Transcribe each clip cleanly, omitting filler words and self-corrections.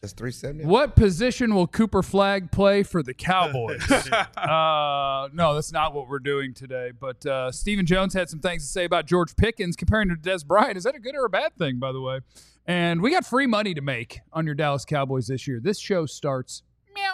That's 370. What position will Cooper Flagg play for the Cowboys? No, that's not what we're doing today. But Stephen Jones had some things to say about George Pickens comparing to Dez Bryant. Is that a good or a bad thing, by the way? And we got free money to make on your Dallas Cowboys this year. This show starts meow.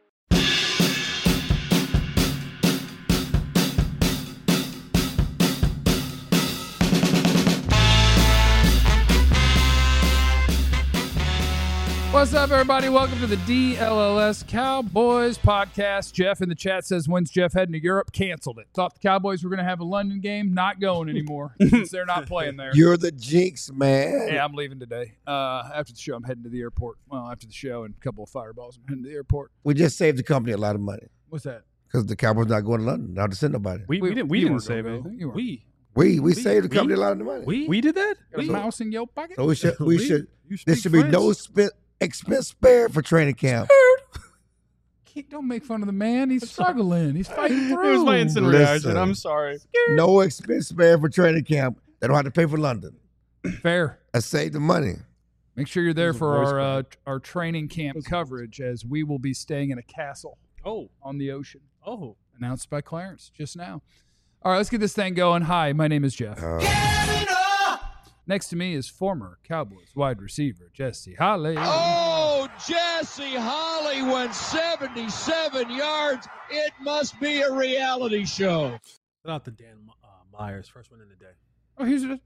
What's up, everybody? Welcome to the DLLS Cowboys podcast. Jeff in the chat says, when's Jeff heading to Europe? Canceled it. Thought the Cowboys were going to have a London game. Not going anymore since they're not playing there. You're the jinx, man. Yeah, I'm leaving today. After the show, I'm heading to the airport. Well, after the show and a couple of fireballs, I'm heading to the airport. We just saved the company a lot of money What's that? because the Cowboys not going to London. Not to send nobody. We didn't weren't save gonna it. go. You weren't. We saved the company a lot of money. We did that? Got a mouse in your pocket? So we should. You There speak should be no French? expense spared for training camp. Don't make fun of the man. He's struggling. He's fighting through. It was my instant Listen. reaction. I'm sorry. No expense spared for training camp. They don't have to pay for London. Fair. I saved the money. Make sure you're there This is a for voice our training camp coverage, as we will be staying in a castle Oh. on the ocean. Oh. Announced by Clarence just now. All right, let's get this thing going. Hi, my name is Jeff. Next to me is former Cowboys wide receiver Jesse Holley. Oh, Jesse Holley went 77 yards. It must be a reality show. Shout out to Dan Myers, first one in the day. Oh, here's it.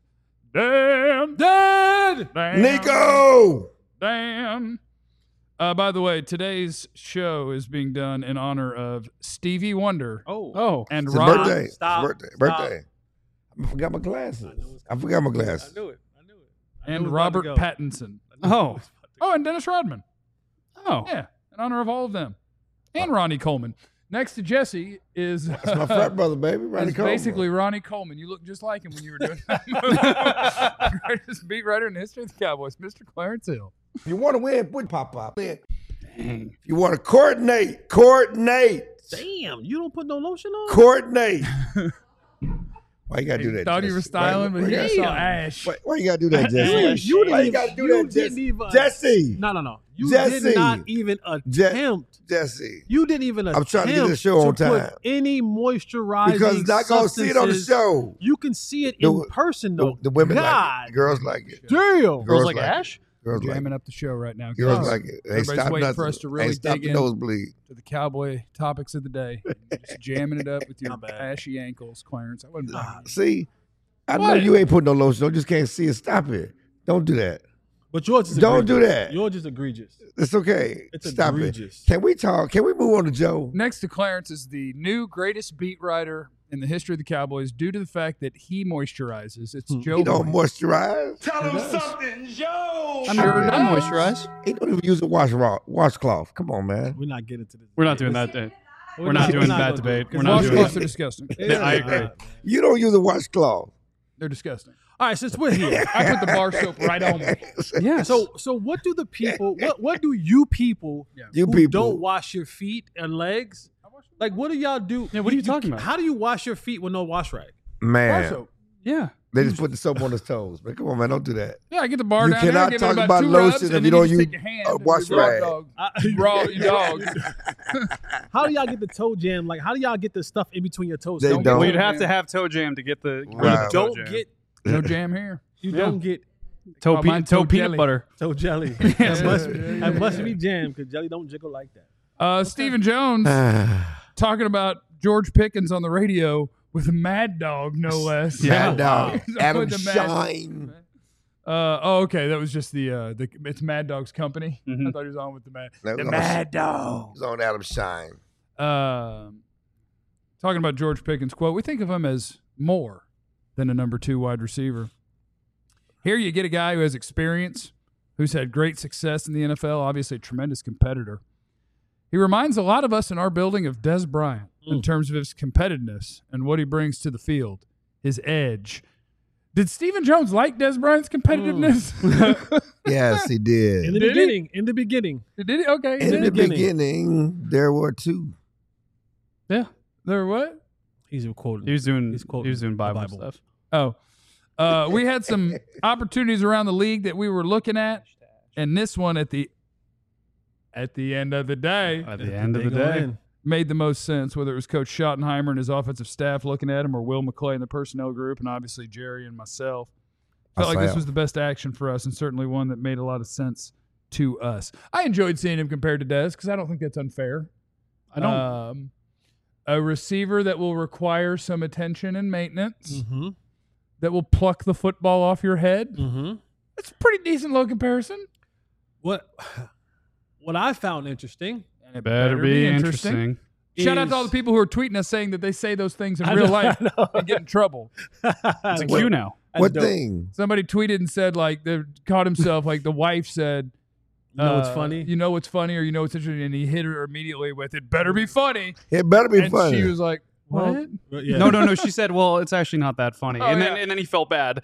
Dan. Nico! Dan. By the way, today's show is being done in honor of Stevie Wonder Oh. and It's his Robert. birthday. Stop. It's his birthday. I forgot my glasses. I forgot my glasses. I knew it. And Robert Pattinson. Oh. Oh, and Dennis Rodman. Oh. Yeah, in honor of all of them. And Ronnie Coleman. Next to Jesse is That's my frat brother, baby. Ronnie is Coleman. basically Ronnie Coleman. You look just like him when you were doing that. Greatest beat writer in the history of the Cowboys, Mr. Clarence Hill. If you want to win, put pop. If you want to coordinate. Damn, you don't put no lotion on? Coordinate. Why you got to do that, Thought he Jesse? was styling, but he Why- just saw ash. Why you got to do that, Jesse? You Why didn't you got to do you that, didn't Jesse? even- Jesse. No. You Jesse. did not even attempt. Jesse. You didn't even attempt I'm trying to get this show on to put time. any moisturizing Because not going to see it on the substances. show. You can see it The- in person, though. The women like God it. Girls like it. damn. Girls like Ash? Girls like Jamming it. up the show right now. Girls guys. like it. They Everybody's stop waiting nothing. for us to really They stop dig the in. nosebleed. To the Cowboy topics of the day. Just jamming it up with your Not bad. ashy ankles, Clarence. I wasn't blaming you. See, I know What? you ain't putting no lotion on. Just can't see it. Stop it. Don't do that. But yours is Don't egregious. do that. Yours is egregious. It's okay. It's Stop egregious. it. Can we talk? Can we move on to Joe? Next to Clarence is the new greatest beat writer in the history of the Cowboys due to the fact that he moisturizes. It's Joe He don't Moist. moisturize. Tell him something, Joe. I'm sure it does. moisturize. He don't even use a washcloth. Come on, man. We're not getting to this. We're not doing that. We're not doing that debate. We're not doing Washcloths that. are disgusting. I agree. You don't use a washcloth. They're disgusting. All right, since we're here. I put the bar soap right on me. Yes. So what do the people what do you people You who people. don't wash your feet and legs? Like what do y'all do? Yeah, what are you talking about? How do you wash your feet with no wash rag? Bar Man, soap. Yeah. they just put the soap on his toes. Man, come on, man. Don't do that. Yeah, I get the bar You down there, cannot give talk it about 2 lotion rubs, if and you then don't just use take your hand a and wash raw rag. dog. Raw your dog. How do y'all get the toe jam? Like how do y'all get the stuff in between your toes? They Don't don't. Well, Get, you'd have to have toe jam to get the. Right. you don't toe jam. get No jam here. you Yeah. don't get toe, Oh, mine toe peanut jelly. butter. toe jelly. That must be jam because jelly don't jiggle like that. Stephen Jones talking about George Pickens on the radio with Mad Dog, no less. Yeah. Mad Dog. He's Adam with the Mad- Shine. Okay. That was just the it's Mad Dog's company. Mhm. I thought he was on with the Mad. That was The on- Mad Dog. It was on Adam Shine. Talking about George Pickens, quote, we think of him as more than a number 2 wide receiver. Here you get a guy who has experience, who's had great success in the NFL, obviously a tremendous competitor. He reminds a lot of us in our building of Dez Bryant in terms of his competitiveness and what he brings to the field, his edge. Did Stephen Jones like Dez Bryant's competitiveness? Yes, he did. In the Did he? beginning. In the beginning. Did he? Okay. In the beginning. beginning, there were 2. Yeah. There what? He's quoting. He was doing. He's quoting He was doing the Bible, Bible. stuff. Oh. We had some opportunities around the league that we were looking at, and this one at the at the end of the day, At the end of They the go day. in. made the most sense, whether it was Coach Schottenheimer and his offensive staff looking at him or Will McClay and the personnel group, and obviously Jerry and myself. Felt like this was the best action for us and certainly one that made a lot of sense to us. I enjoyed seeing him compared to Dez because I don't think that's unfair. I don't. A receiver that will require some attention and maintenance, Mm-hmm. that will pluck the football off your head. Mm-hmm. It's a pretty decent low comparison. What I found interesting. And it better be interesting. Shout out to all the people who are tweeting us saying that they say those things in real life and get in trouble. It's a cue now. What dope. thing? Somebody tweeted and said, like, they caught himself, like the wife said, You know what's funny? You know what's funny or you know what's interesting, and he hit her immediately with, it better be funny. It better be And funny. she was like, what? Yeah. No. She said, "Well, it's actually not that funny," Oh, and yeah. then he felt bad.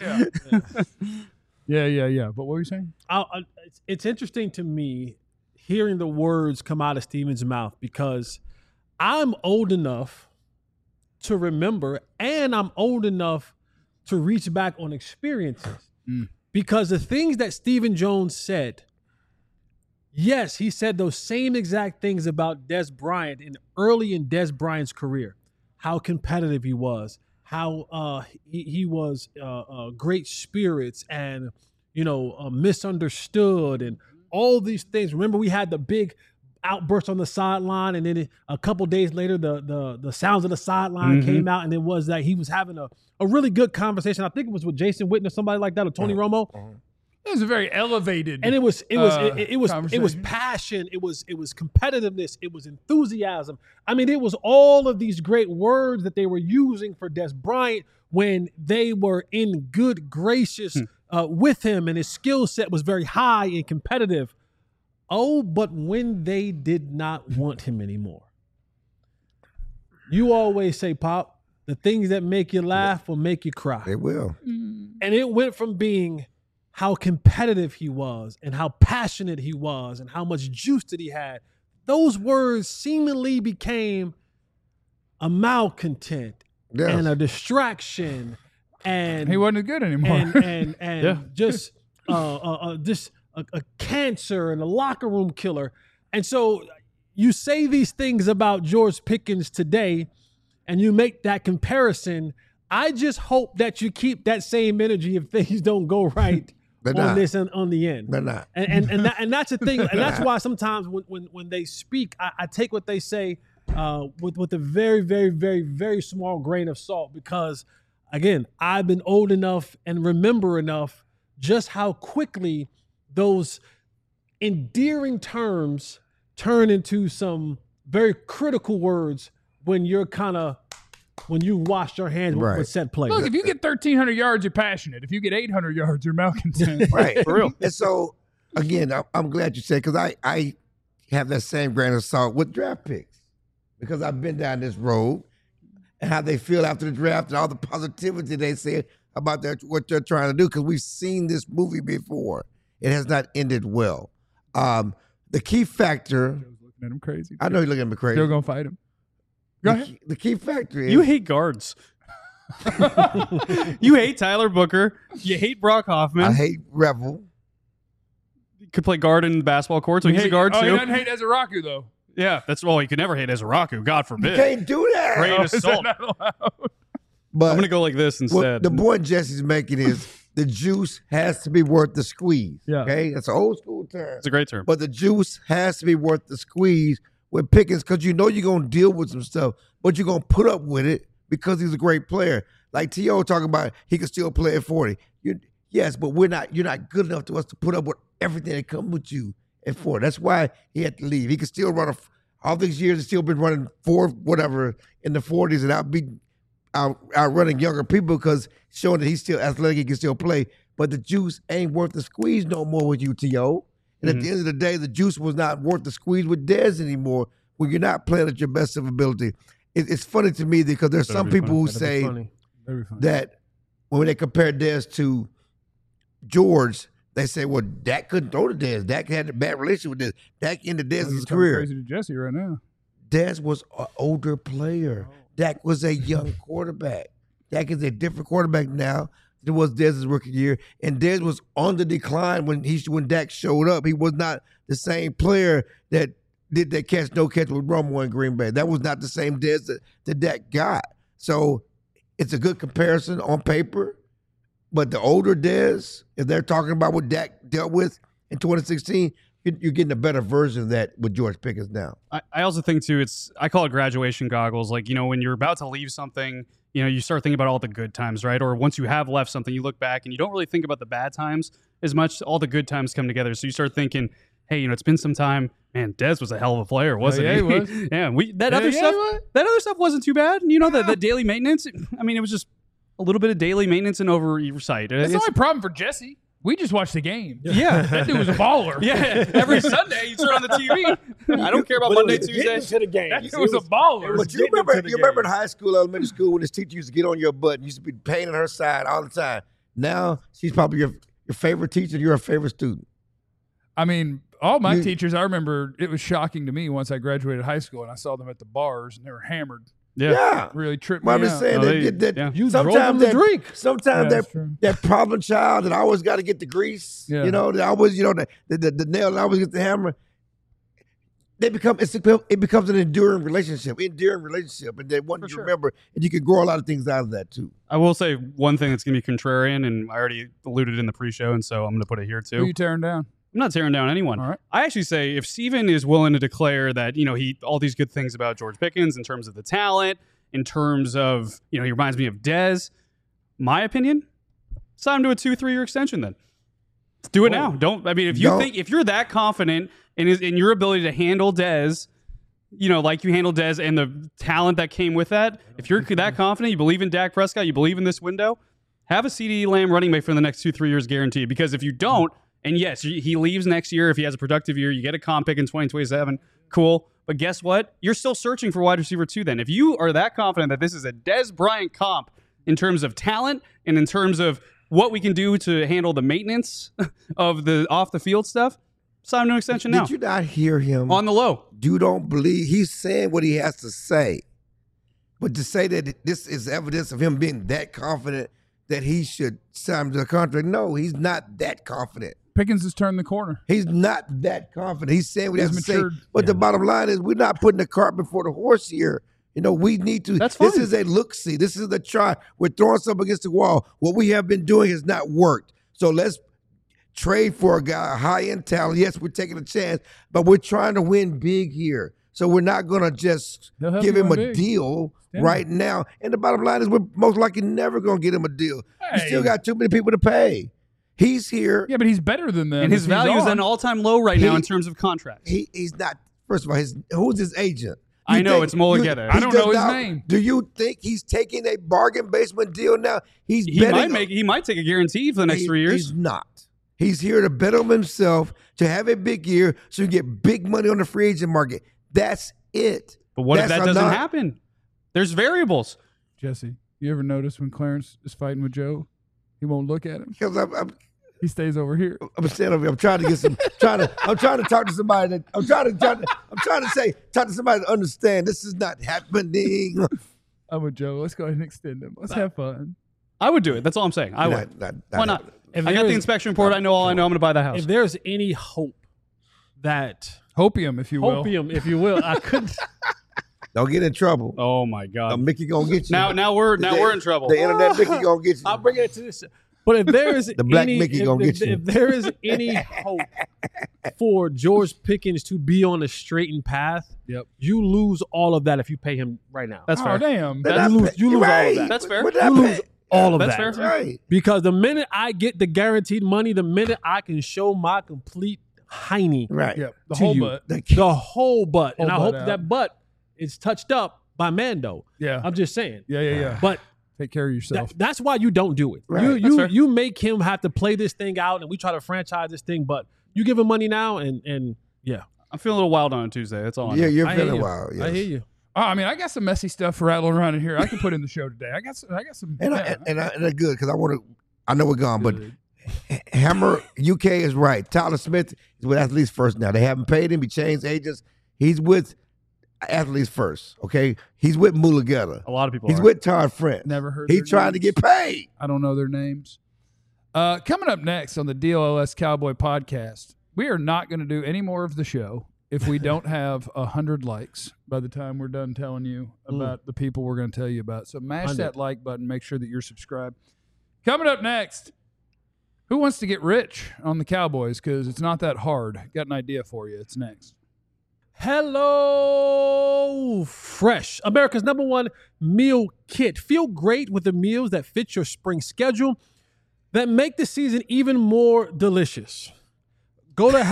Yeah. But what were you saying? It's interesting to me hearing the words come out of Steven's mouth because I'm old enough to remember and I'm old enough to reach back on experiences. Because the things that Stephen Jones said, yes, he said those same exact things about Des Bryant early in Des Bryant's career, how competitive he was, how he was great spirits and, misunderstood and all these things. Remember, we had the big outburst on the sideline, and then a couple days later, the sounds of the sideline came out, and it was that he was having a really good conversation. I think it was with Jason Witten or somebody like that, or Tony Romo. It was a very elevated, And it was conversation. passion, it was competitiveness, it was enthusiasm. I mean, it was all of these great words that they were using for Des Bryant when they were in good gracious with him, and his skill set was very high and competitive. Oh, but when they did not want him anymore. You always say, Pop, the things that make you laugh will make you cry. It will. And it went from being how competitive he was and how passionate he was and how much juice that he had. Those words seemingly became a malcontent Yes. and a distraction and he wasn't good anymore. and just a cancer and a locker room killer. And so you say these things about George Pickens today and you make that comparison. I just hope that you keep that same energy if things don't go right They're on not. this and on the end. They're not. And that's the thing. And that's why sometimes when they speak, I take what they say with a very, very, very, very small grain of salt, because again, I've been old enough and remember enough just how quickly those endearing terms turn into some very critical words when you wash your hands Right. with set plays. Look, if you get 1,300 yards, you're passionate. If you get 800 yards, you're malcontent. Right. For real. And so, again, I'm glad you said, because I have that same grain of salt with draft picks, because I've been down this road and how they feel after the draft and all the positivity they say about what they're trying to do, because we've seen this movie before. It has not ended well. The key factor, Joe's looking at him crazy. I know you're looking at me crazy. Joe gonna fight him. Go ahead. The key factor is You hate guards. You hate Tyler Booker. You hate Brock Hoffman. I hate Revel. Could play guard in the basketball court, so he's a guard He too. doesn't hate Ezeraku though. Yeah, he could never hate Ezeraku. God You forbid. can't do that. Great Is that assault. not allowed? But I'm gonna go like this what instead. the point Jesse's making is the juice has to be worth the squeeze. Yeah. Okay, that's an old school term. It's a great term. But the juice has to be worth the squeeze with Pickens, because you know you're gonna deal with some stuff, but you're gonna put up with it because he's a great player. Like T.O. talking about, he can still play at 40. Yes, but you're not good enough to us to put up with everything that comes with you at 40. That's why he had to leave. He could still run all these years. He's still been running whatever in the 40s and outrunning younger people, because showing that he's still athletic, he can still play. But the juice ain't worth the squeeze no more with you, T.O. And at the end of the day, the juice was not worth the squeeze with Dez anymore when you're not playing at your best of ability. It's funny to me because there's some be people who That'd be say funny. Very funny. that when they compare Dez to George, they say, well, Dak couldn't throw to Dez. Dak had a bad relationship with Dez. Dak ended You're Dez's talking career. crazy to Jesse right now. Dez was an older player. Dak was a young quarterback. Dak is a different quarterback now. it was Dez's rookie year, and Dez was on the decline when Dak showed up. He was not the same player that did that catch no catch with Romo in Green Bay. That was not the same Dez that Dak got. So it's a good comparison on paper, but the older Dez, if they're talking about what Dak dealt with in 2016, you're getting a better version of that with George Pickens now. I also think, too, I call it graduation goggles. Like, when you're about to leave something, you start thinking about all the good times, right? Or once you have left something, you look back and you don't really think about the bad times as much. All the good times come together. So you start thinking, hey, it's been some time. Man, Dez was a hell of a player, wasn't he? He was. Yeah, that other stuff wasn't too bad. The daily maintenance, it was just a little bit of daily maintenance and oversight. That's the only problem for Jesse. We just watched the game. Yeah. That dude was a baller. Yeah, every Sunday you turn on the TV. I don't care about Monday, Tuesday. To the game. That dude was a baller. But you remember in high school, elementary school, when this teacher used to get on your butt and used to be painting her side all the time. Now she's probably your favorite teacher. You're her favorite student. I mean, all my teachers, I remember it was shocking to me once I graduated high school and I saw them at the bars and they were hammered. Yeah. Really tripped me I'm out. just saying you drove them to drink. Sometimes that problem child that always got to get the grease, that always, the nail that always get the hammer. It becomes an enduring relationship, and they want you to remember, and you can grow a lot of things out of that too. I will say one thing that's going to be contrarian, and I already alluded in the pre-show, and so I'm going to put it here too. Who are you tearing down? I'm not tearing down anyone. All right. I actually say if Steven is willing to declare that, he all these good things about George Pickens in terms of the talent, in terms of, he reminds me of Dez, my opinion, sign him to a 2-3 year extension then. Let's do it now. If you're that confident in your ability to handle Dez, like you handle Dez and the talent that came with that, if you're that confident, you believe in Dak Prescott, you believe in this window, have a CeeDee Lamb running back for the next 2-3 years guaranteed. Because if you don't, and yes, he leaves next year. If he has a productive year, you get a comp pick in 2027. Cool. But guess what? You're still searching for wide receiver 2 then. If you are that confident that this is a Dez Bryant comp in terms of talent and in terms of what we can do to handle the maintenance of the off-the-field stuff, sign an extension now. Did you not hear him? On the low. You don't believe he's saying what he has to say. But to say that this is evidence of him being that confident that he should sign to the contract, no, he's not that confident. Pickens has turned the corner. He's not that confident. He's saying what he has to say. matured. But the bottom line is we're not putting the cart before the horse here. We need to. That's This fine. is a look-see. This is a try. We're throwing something against the wall. What we have been doing has not worked. So let's trade for a guy, a high-end talent. Yes, we're taking a chance, but we're trying to win big here. So we're not going to just They'll help give you him win a big. deal Yeah. right now. And the bottom line is we're most likely never going to get him a deal. We Hey. still got too many people to pay. He's here. Yeah, but he's better than them. And his if he's value is on. at an all-time low right now He- in terms of contracts. He's not. First of all, who's his agent? I know, think- it's Mulligetta. I don't does know his not- name. Do you think he's taking a bargain basement deal now? He might take a guarantee for the next 3 years. He's not. He's here to bet on himself to have a big year so you get big money on the free agent market. That's it. But what if That's that doesn't not- happen? There's variables. Jesse, you ever notice when Clarence is fighting with Joe, he won't look at him. Because I'm He stays over here. standing over here. I'm trying to get some. I'm trying to talk to somebody that I'm trying to talk to somebody to understand this is not happening. I'm with Joe. Let's go ahead and extend him. Let's have fun. I would do it. That's all I'm saying. I would. Why not? If I got the there's- inspection report. I know all I know. I'm going to buy the house. If there's any hope that Hopium, if you will. opium, if you will, I couldn't. Don't get in trouble. Oh my God! Mickey gonna get you. Now we're in trouble. The internet Mickey gonna get you. I'll bring it to this. But if there is The black any, Mickey if, gonna if- get you. if there is any hope for George Pickens to be on a straightened path, Yep. you lose all of that if you pay him right now. That's Oh, fair. damn. They're you not lose- pay- you lose all of right. that. That's fair. What You that lose pay? all of That's that. fair. Right. Because the minute I get the guaranteed money, the minute I can show my complete hiney, Right. Yep. The To whole you. butt. the whole butt, and I Whole hope butt out. that butt is touched up by Mando. Yeah. I'm just saying. Yeah. But Take care of yourself. that's why you don't do it. Right. That's fair. You make him have to play this thing out, and we try to franchise this thing. But you give him money now, and yeah, I'm feeling a little wild on a Tuesday. That's all. I know. Yeah, you're I hear feeling you. wild. Yes. I hear you. Oh, I mean, I got some messy stuff rattling around in here. I can put in the show today. I got some. And yeah. and that's good because I know we're gone, but Good. Hammer UK is right. Tyler Smith is with Athletes First now. They haven't paid him. He changed agents. He's with athletes first. Okay, he's with Mulugeta. A lot of people He's are. with Todd French. Never heard He's their trying to names. get paid. I don't know their names. Coming up next on the DLS Cowboy podcast, we are not going to do any more of the show if we don't have 100 likes by the time we're done telling you about the people we're going to tell you about. So mash 100. that like button. Make sure that you're subscribed. Coming up next, who wants to get rich on the Cowboys? Because it's not that hard. Got an idea for you. It's next. Hello Fresh, America's #1 meal kit. Feel great with the meals that fit your spring schedule that make the season even more delicious. Go to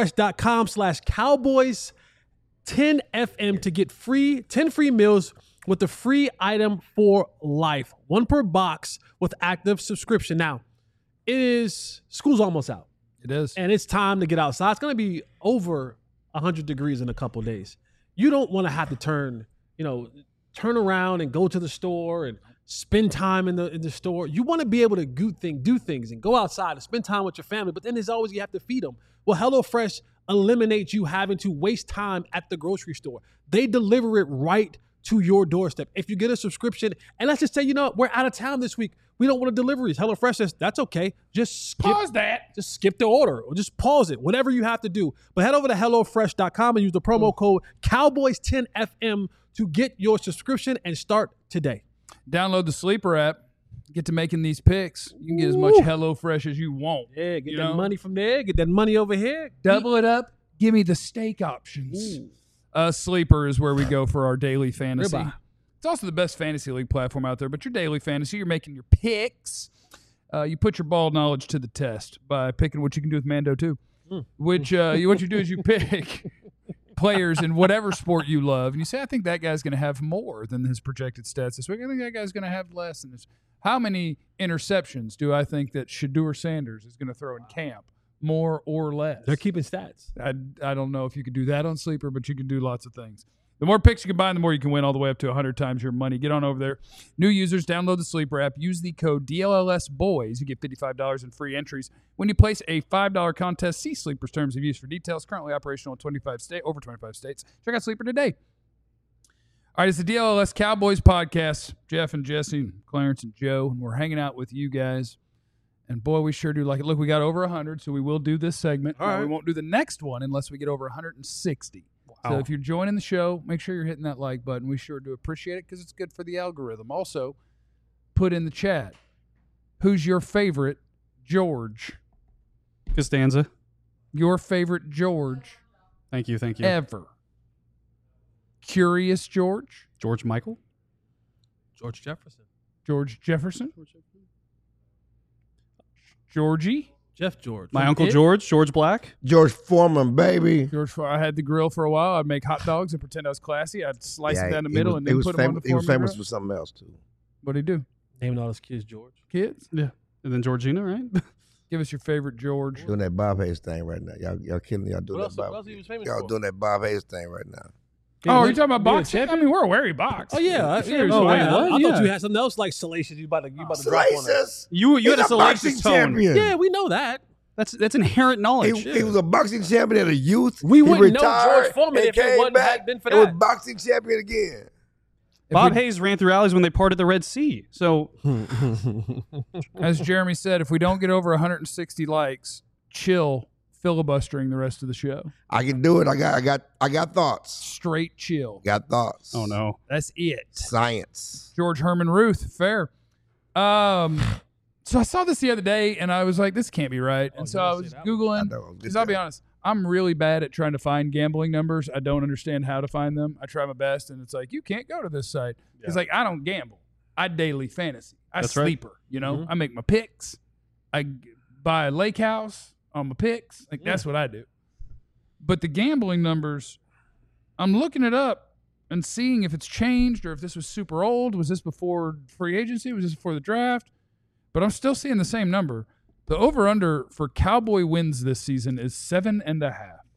HelloFresh.com/Cowboys10FM to get 10 free meals with the free item for life. 1 per box with active subscription. Now, school's almost out. It is. And it's time to get outside. It's going to be over 100 degrees in a couple days. You don't want to have to turn around and go to the store and spend time in the store. You want to be able to do things and go outside and spend time with your family, but then there's always you have to feed them. Well, HelloFresh eliminates you having to waste time at the grocery store. They deliver it right to your doorstep. If you get a subscription, and let's just say, we're out of town this week, we don't want deliveries. HelloFresh says, that's okay. Just skip the order or just pause it, whatever you have to do. But head over to HelloFresh.com and use the promo code Cowboys10FM to get your subscription and start today. Download the Sleeper app. Get to making these picks. You can get as much HelloFresh as you want. Yeah, get that money from there. Get that money over here. Double it up. Give me the steak options. Sleeper is where we go for our daily fantasy. Ribeye. It's also the best fantasy league platform out there. But your daily fantasy, you're making your picks. You put your ball knowledge to the test by picking what you can do with Mando too. Which what you do is you pick players in whatever sport you love, and you say, I think that guy's going to have more than his projected stats this week. I think that guy's going to have less than this. How many interceptions do I think that Shedeur Sanders is going to throw in camp? More or less? They're keeping stats. I don't know if you could do that on Sleeper, but you can do lots of things. The more picks you combine, the more you can win, all the way up to 100 times your money. Get on over there. New users, download the Sleeper app. Use the code DLLSBOYS. You get $55 in free entries. When you place a $5 contest, see Sleeper's terms of use for details. Currently operational in over 25 states. Check out Sleeper today. All right, it's the DLLS Cowboys podcast. Jeff and Jesse and Clarence and Joe, and we're hanging out with you guys. And, boy, we sure do like it. Look, we got over 100, so we will do this segment. All right. We won't do the next one unless we get over 160. Wow. So if you're joining the show, make sure you're hitting that like button. We sure do appreciate it because it's good for the algorithm. Also, put in the chat, who's your favorite George? Costanza. Your favorite George Thank you. ever? Curious George? George Michael. George Jefferson. George Jefferson? Georgie? Jeff George. My Uncle George Black. George Foreman, baby. I had the grill for a while. I'd make hot dogs and pretend I was classy. I'd slice it down the middle and then put them on the He was foreman famous grill. for something else, too. What'd he do? Naming all his kids George. Kids? Yeah. And then Georgina, right? Give us your favorite George. Doing that Bob Hayes thing right now. Y'all killing y'all doing What that else Bob. he was famous Y'all for? doing that Bob Hayes thing right now. Oh, are you talking about Being a boxing? I champion? mean, we're aware he boxed. Oh yeah, Sure, he's oh, fine. wait, I thought Yeah. you had something else like salacious. You about to drop on that. Salacious. You He's had a salacious boxing tone. champion. Yeah, we know that. That's inherent knowledge. He was a boxing champion at a youth. We He wouldn't know retired George Foreman and if it came wasn't back had been for and was that. boxing champion again. Bob Hayes ran through alleys when they parted the Red Sea. So As Jeremy said, if we don't get over 160 likes, chill filibustering the rest of the show. I can do it. I got thoughts. Straight chill. Got thoughts. oh no. That's it. Science. George Herman Ruth, fair. So I saw this the other day, and I was like, this can't be right. And so I was Googling, because I'll be honest, I'm really bad at trying to find gambling numbers. I don't understand how to find them. I try my best, and it's like, you can't go to this site. It's like, I don't gamble. I daily fantasy. I That's right. sleeper, you know? I make my picks. I buy a lake house on my picks. Like, that's what I do. But the gambling numbers, I'm looking it up and seeing if it's changed or if this was super old. Was this before free agency? Was this before the draft? But I'm still seeing the same number. The over-under for Cowboy wins this season is 7.5.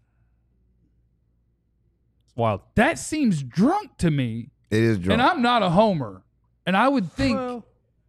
It's wild. That seems drunk to me. It is drunk. And I'm not a homer. And I would think... Well,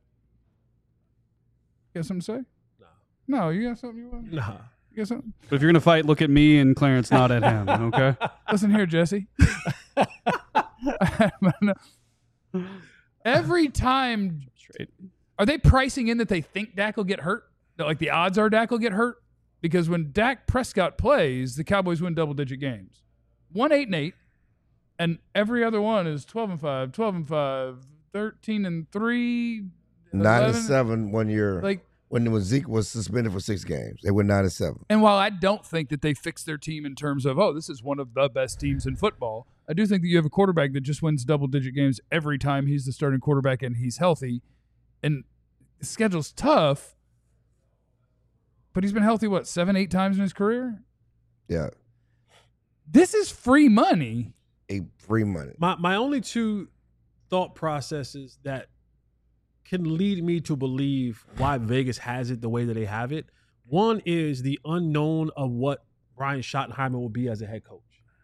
You got something to say? No, you got something you want? nah. You got something? But if you're gonna fight, look at me and Clarence, not at him. Okay. Listen here, Jesse. Every time, are they pricing in that they think Dak will get hurt? That, like, the odds are Dak will get hurt? Because when Dak Prescott plays, the Cowboys win double-digit games. 1-8-8, and every other one is 12-5, 12-5, 13-3, 9-7 1 year. Like, when Zeke was suspended for 6 games, they went 9-7. and while I don't think that they fixed their team in terms of, oh, this is one of the best teams in football, I do think that you have a quarterback that just wins double-digit games every time he's the starting quarterback and he's healthy. And the schedule's tough, but he's been healthy, 7-8 times in his career? Yeah, This is free money. free money. My only two thought processes that can lead me to believe why Vegas has it the way that they have it. One is the unknown of what Brian Schottenheimer will be as a head coach.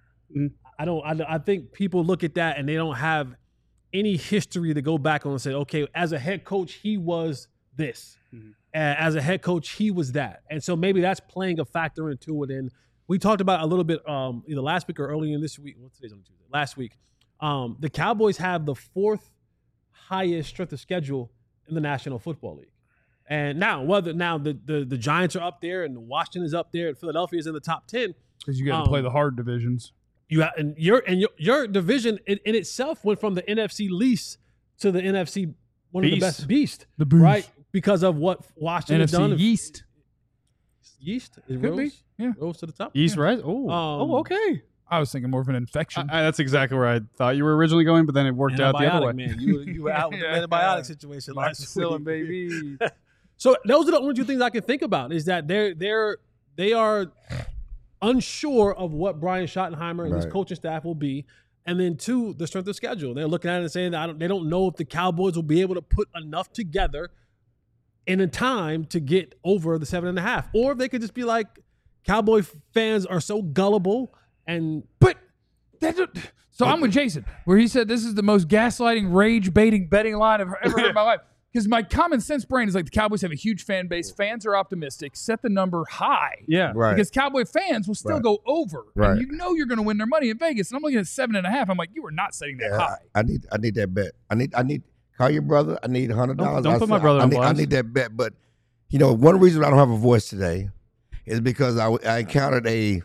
I think people look at that and they don't have any history to go back on and say, okay, as a head coach, he was this. As a head coach, he was that. And so maybe that's playing a factor into it. And we talked about a little bit either last week or earlier in this week. Well, today's on Tuesday. Last week, the Cowboys have the 4th highest strength of schedule in the National Football League. And now, the Giants are up there and Washington is up there and Philadelphia is in the top 10. Because you got to play the hard divisions. Your division in itself went from the NFC least to the NFC one of the best beast, right? Because of what Washington has done. Yeast. Yeast is Could be. Yeah. Rose to the top. Yeast, right? Oh, okay. I was thinking more of an infection. That's exactly where I thought you were originally going, but then it worked out the other way. Man. You were out with the antibiotic situation last week. Baby. So those are the only two things I can think about is that they are unsure of what Brian Schottenheimer and his coaching staff will be. And then 2, the strength of schedule. They're looking at it and saying that they don't know if the Cowboys will be able to put enough together in a time to get over the 7.5. Or if they could just be like, Cowboy fans are so gullible and So I'm with Jason, where he said this is the most gaslighting, rage-baiting betting line I've ever heard in my life. Because my common sense brain is like the Cowboys have a huge fan base. Fans are optimistic. Set the number high. Yeah. Right. Because Cowboy fans will still go over. Right. And you know you're going to win their money in Vegas. And I'm looking at 7.5. I'm like, you are not setting that high. I need that bet. I need call your brother. I need $100. Don't put my brother on I blast. need that bet. But one reason I don't have a voice today is because I encountered a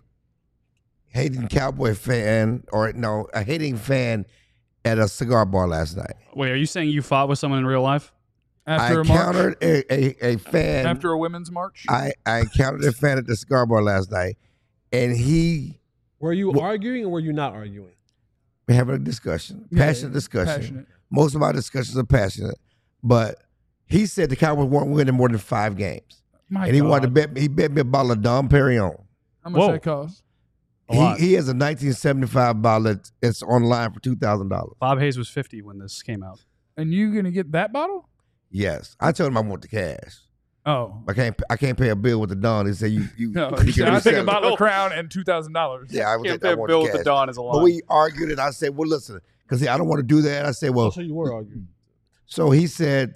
hating Cowboy fan, a hating fan at a cigar bar last night. Wait, are you saying you fought with someone in real life? After I a march? encountered a fan. After a women's march? I encountered a fan at the cigar bar last night, and he were you arguing or were you not arguing? we're having a discussion, passionate discussion. Passionate. Most of our discussions are passionate, but he said the Cowboys weren't winning more than 5 games, and he wanted to bet. He bet me a bottle of Dom Perignon. How much that cost? He has a 1975 bottle that's online for $2,000. Bob Hayes was 50 when this came out. And you going to get that bottle? Yes, I told him I want the cash. Oh. I can't pay a bill with the Don. He said you No, you can I think a resell it. bottle of Crown and $2,000. Yeah, I Can't was pay a want bill the with the cash. Don is a lot. But we argued, and I said, well, listen, because I don't want to do that. I said, well, So you were arguing. so he said,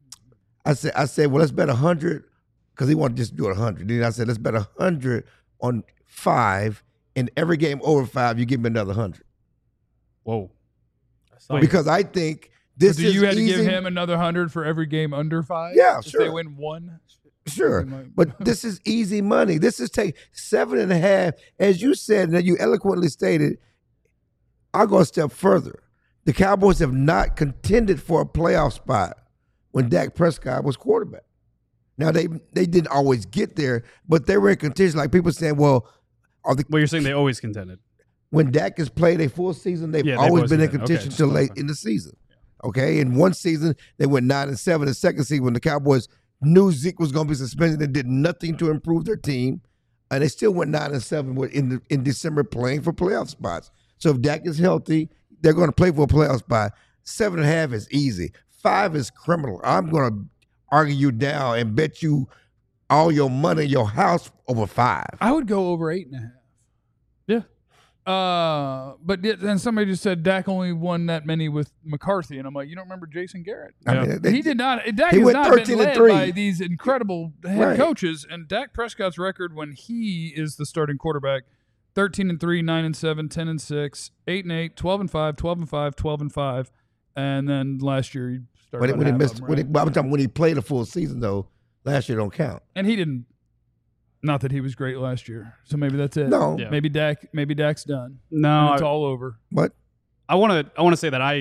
I said, well, let's bet 100, because he wanted to just do it 100. Then I said, let's bet 100 on 5, and every game over 5, you give me another 100. Whoa. Because I think this So is you had to easy. give him another 100 for every game under 5? Yeah, if sure. they win 1? Sure, Something like- but this is easy money. This is take 7.5, as you said, and you eloquently stated. I'll go a step further. The Cowboys have not contended for a playoff spot when Dak Prescott was quarterback. Now they didn't always get there, but they were in contention. Like people saying, well, Well, you're saying they always contended. when Dak has played a full season, they've Yeah, they've always always been in contended. Okay, contention just till late clarify. in the season. Okay, in one season they went 9-7. The second season, when the Cowboys knew Zeke was going to be suspended and did nothing to improve their team, and they still went 9-7 in December playing for playoff spots. So if Dak is healthy, they're going to play for a playoff spot. 7.5 is easy. 5 is criminal. I'm going to argue you down and bet you all your money, your house over 5. I would go over 8.5. Yeah. But then somebody just said Dak only won that many with McCarthy, and I'm like, you don't remember Jason Garrett? I mean, He did not. Dak he has went not been 13 and led 3. by these incredible head Right. coaches, and Dak Prescott's record when he is the starting quarterback 13-3, 9-7, 10-6, 8-8, 12-5, 12-5, 12-5, and then last year he started. When he missed, I'm talking when he played a full season though. Last year don't count. And he didn't. Not that he was great last year, so maybe that's it. No. Yeah. Maybe Dak's done. No, And it's all over. What? I want to say that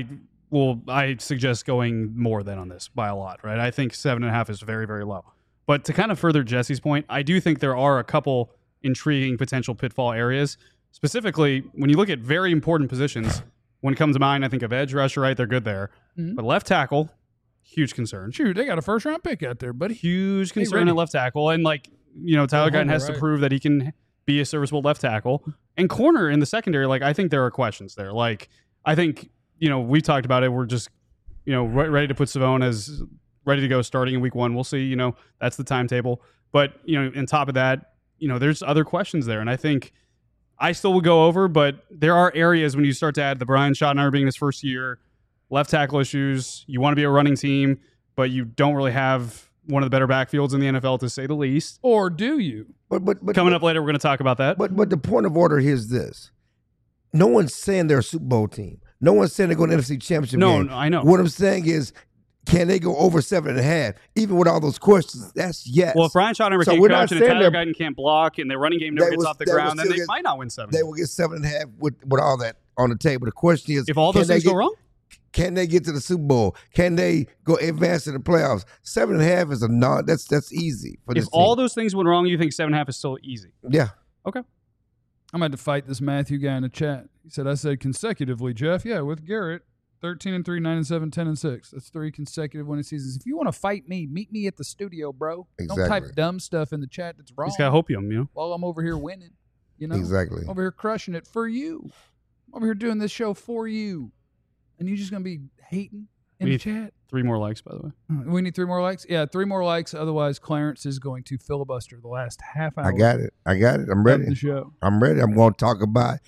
I suggest going more than on this by a lot, right? I think 7.5 is very, very low. But to kind of further Jesse's point, I do think there are a couple intriguing potential pitfall areas. Specifically, when you look at very important positions, when it comes to mind, I think of edge rusher, right? They're good there. Mhm. But left tackle, huge concern. Shoot, they got a first-round pick out there, buddy. Huge concern ready. at left tackle. And Tyler Guyton has to right. prove that he can be a serviceable left tackle. And corner in the secondary, I think there are questions there. I think, we talked about it. We're just, ready to put Savone as ready to go starting in week 1. We'll see, that's the timetable. But, on top of that, there's other questions there. And I think I still would go over, but there are areas when you start to add the Brian Schottenheimer being his first year, left tackle issues, you want to be a running team, but you don't really have one of the better backfields in the NFL, to say the least. Or do you? But Coming up later, we're going to talk about that. But the point of order here is this: no one's saying they're a Super Bowl team. No one's saying they're going to NFC Championship game. No, I know. What I'm saying is, can they go over 7.5? Even with all those questions, that's yes. Well, if Brian Schottenheimer So can't we're not coach and if saying Tyler they're- Guyton can't block and their running game never They gets will- off the they will ground, then still they get- might not win 7. they will get 7.5 with all that on the table. The question is, If all can those they things go get- wrong, Can they get to the Super Bowl? Can they go advance to the playoffs? 7.5 is a non. That's easy for if this all team. those things went wrong, you think 7.5 is still easy? Yeah. Okay. I'm going to fight this Matthew guy in the chat. He said, I said consecutively, Jeff. Yeah, with Garrett. 13-3, 9-7, 10-6. That's 3 consecutive winning seasons. If you want to fight me, meet me at the studio, bro. Don't type Exactly. dumb stuff in the chat that's wrong He's got hopium, while I'm over here winning. Exactly. Over here crushing it for you. Over here doing this show for you. And you just going to be hating in We the need chat? 3 more likes, by the way. We need 3 more likes? Yeah, 3 more likes. Otherwise, Clarence is going to filibuster the last half hour I got it. I'm of ready. the show. I'm ready. I'm going to talk about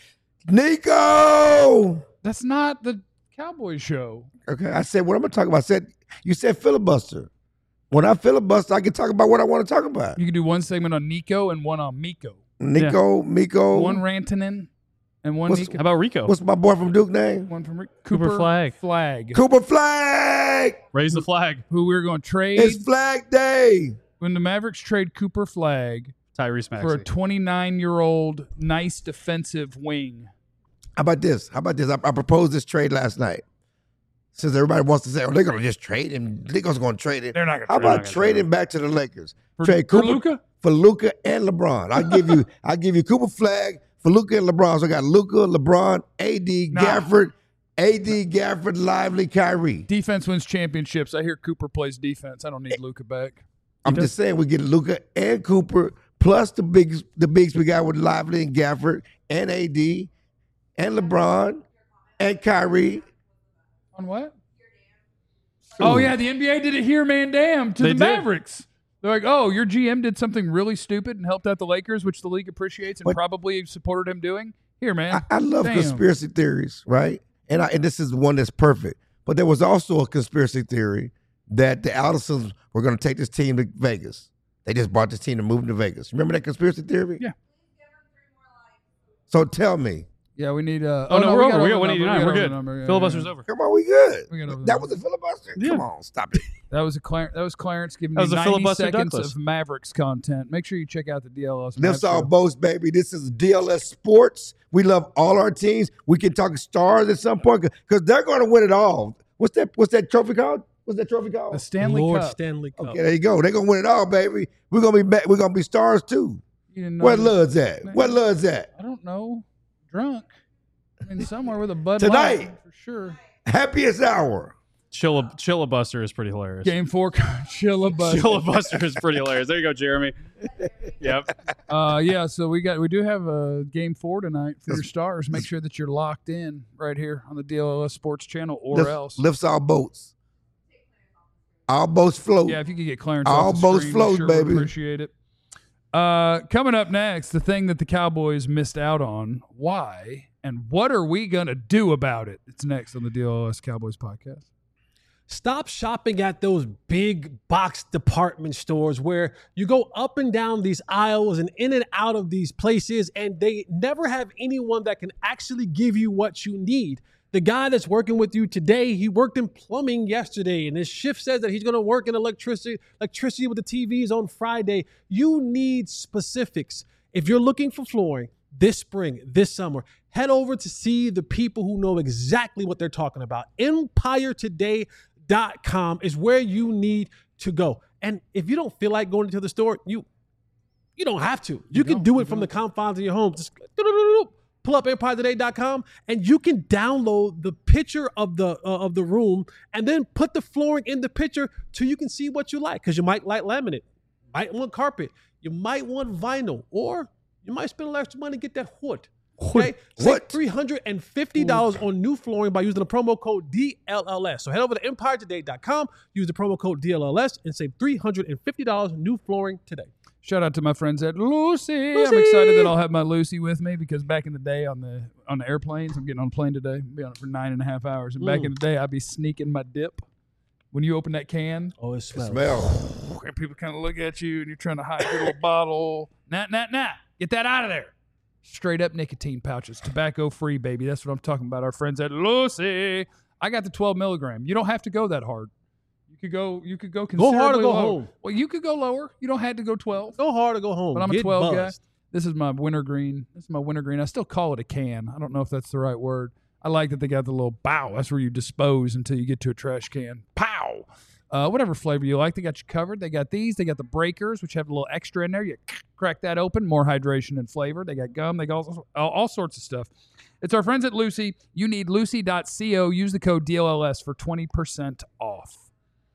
Nico. That's not the Cowboys show. Okay. I said what I'm going to talk about. You said filibuster. When I filibuster, I can talk about what I want to talk about. You can do one segment on Nico and one on Miko. Miko. One Rantanen and one What's- Nico. How about Rico? What's my boy from Duke name? One from Cooper Flag. Cooper Flag. Raise the flag. Who we're going to trade It's Flag Day. when the Mavericks trade Cooper Flag Tyrese for a Maxey. 29-year-old nice defensive wing. How about this? I proposed this trade last night. Since everybody wants to say, oh, they're going to just trade him. Nico's going to trade it. They're not going How to about trading back to the Lakers? Trade for Cooper Luka? for Luka and LeBron. I give you Cooper Flag for Luka and LeBron. So I got Luka, LeBron, Gafford, Lively, Kyrie. Defense wins championships. I hear Cooper plays defense. I don't need Luka back. I'm just saying we get Luka and Cooper plus the bigs we got with Lively and Gafford and AD and LeBron and Kyrie. On what? Oh, yeah, the NBA did it here, man, damn, to They the did. Mavericks. They're like, oh, your GM did something really stupid and helped out the Lakers, which the league appreciates and But- probably supported him doing. Here, man. I love Damn. conspiracy theories, right? And this is one that's perfect. But there was also a conspiracy theory that the Aldersons were going to take this team to Vegas. They just bought this team and moved to Vegas. Remember that conspiracy theory? Yeah. So tell me. Yeah, we need. Oh, no, we're we got over. We got the 189. number. We're We got good. the number. Yeah, Filibuster's yeah. over. Come on, we good. We got over That the was a filibuster? Yeah. Come on, stop it. That was Clarence giving That you was a 90 filibuster seconds Douglas. of Mavericks content. Make sure you check out the DLS. Lifts Mavs all show. boats, baby. This is DLS Sports. We love all our teams. We can talk stars at some point because they're going to win it all. What's that trophy called? What's that trophy called? The Stanley Lord Cup. Stanley Cup. Okay, there you go. They're gonna win it all, baby. We're gonna be back. We're gonna be stars too. You didn't know Where that? Lud's at? Where Lud's at? I don't know. Drunk. I mean, somewhere with a Bud Tonight. Light, for sure. Happiest hour. Chillabuster is pretty hilarious. Game 4, Chillabus. Chillabuster is pretty hilarious. There you go, Jeremy. Yep. Yeah, so we do have a Game 4 tonight for your stars. Make sure that you're locked in right here on the DLS Sports channel or else. Lifts all boats. All boats float. Yeah, if you could get Clarence All off the boats screen, float, we sure would baby. appreciate it. Coming up next, the thing that the Cowboys missed out on. Why? And what are we going to do about it? It's next on the DLS Cowboys podcast. Stop shopping at those big box department stores where you go up and down these aisles and in and out of these places, and they never have anyone that can actually give you what you need. The guy that's working with you today, he worked in plumbing yesterday, and his shift says that he's going to work in electricity with the TVs on Friday. You need specifics. If you're looking for flooring this spring, this summer, head over to see the people who know exactly what they're talking about. EmpireToday.com is where you need to go. And if you don't feel like going to the store, you don't have to. You can do it from the confines of your home. Just pull up EmpireToday.com and you can download the picture of the room and then put the flooring in the picture so you can see what you like. Because you might like laminate, might want carpet, you might want vinyl, or you might spend a little extra money to get that wood. Okay? Save $350 on new flooring by using the promo code DLLS. So head over to EmpireToday.com, use the promo code DLLS, and save $350 new flooring today. Shout out to my friends at Lucy. I'm excited that I'll have my Lucy with me because back in the day on the airplanes, I'm getting on a plane today. I'll be on it for 9.5 hours. And back in the day, I'd be sneaking my dip. When you open that can, oh, it smells. And people kind of look at you and you're trying to hide your little bottle. Nah. Get that out of there. Straight up nicotine pouches. Tobacco free, baby. That's what I'm talking about. Our friends at Lucy. I got the 12 milligram. You don't have to go that hard. You could go considerably Go hard or go lower. home. Well, you could go lower. You don't have to go 12. Go hard or go home. But I'm a Get 12 buzzed. guy. This is my wintergreen. I still call it a can. I don't know if that's the right word. I like that they got the little bow. That's where you dispose until you get to a trash can. Pow! Whatever flavor you like, they got you covered. They got these. They got the breakers, which have a little extra in there. You crack that open, more hydration and flavor. They got gum. They got all sorts of stuff. It's our friends at Lucy. You need lucy.co. Use the code DLLS for 20% off.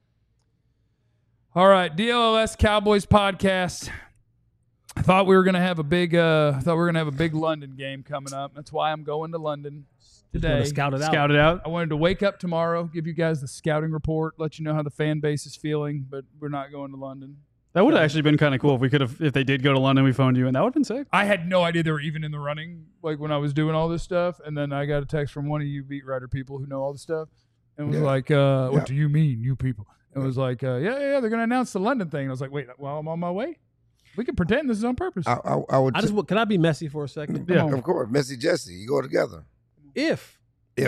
All right, DLLS Cowboys podcast. I thought we were gonna have a big London game coming up. That's why I'm going to London today. Scout it out. I wanted to wake up tomorrow, give you guys the scouting report, let you know how the fan base is feeling, but we're not going to London. That would have actually been kind of cool if they did go to London, we phoned you, and that would have been sick. I had no idea they were even in the running, like when I was doing all this stuff, and then I got a text from one of you beat writer people who know all this stuff, and was like, "What do you mean, you people?" And was like, "Yeah, they're going to announce the London thing." And I was like, "Wait, well, I'm on my way. We can pretend this is on purpose." Can I be messy for a second? Yeah. Of course, Messy Jesse. You go together. If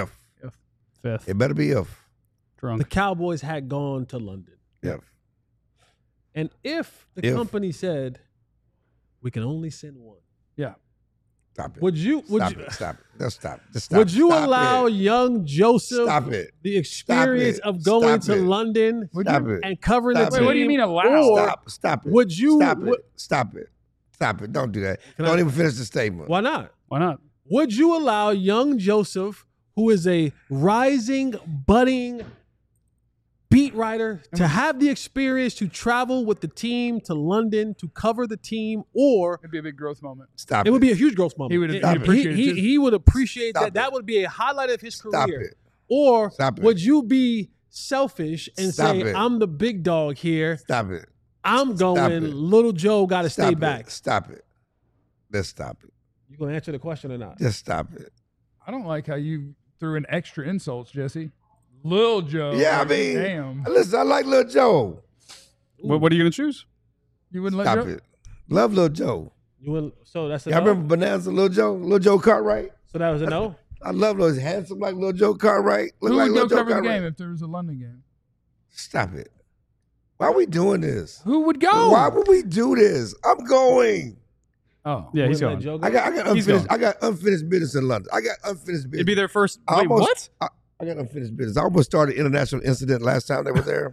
Fifth. It better be if. Drunk. the Cowboys had gone to London, If. and if the company said we can only send one, Stop it. would you? Stop it. Just stop. Would you Stop allow it. young Joseph Stop it. the experience Stop it. of going Stop to it. London Stop it. and covering Stop the it. team? What do you mean allow? Or Stop it. would you- Stop would- it. Stop it. Stop it. Don't do that. Can Don't I- even finish the statement. Why not? Why not? Would you allow young Joseph, who is a rising, budding beat writer, to have the experience to travel with the team to London to cover the team, or It'd be a big growth moment. Stop it. it would be a huge growth moment? He would Stop it. appreciate it. He would appreciate Stop that. it. That would be a highlight of his Stop career. it. Or Stop it. would you be selfish and Stop say, it. I'm the big dog here. Stop it. I'm going. it. Little Joe got to Stop stay it. back. Stop it. Let's stop it. You going to answer the question or not? Just stop it. I don't like how you threw in extra insults, Jesse. Lil Joe. Yeah, I like, mean, damn. listen, I like Lil Joe. What are you going to choose? You wouldn't let Stop Joe? it. Love Lil Joe. You will, so that's a Y'all no? remember Bonanza Lil Joe? Lil Joe Cartwright? So that was a no? I love those handsome like Lil Joe Cartwright. Look Who like would go Lil Joe cover the Cartwright. game if there was a London game? Stop it. Why are we doing this? Who would go? Why would we do this? I'm going. Oh. Yeah, he's Wouldn't let going. Joe go? I got unfinished business in London. I got unfinished business. It'd be their first. I Wait, what? I got unfinished business. I almost started an international incident last time they were there.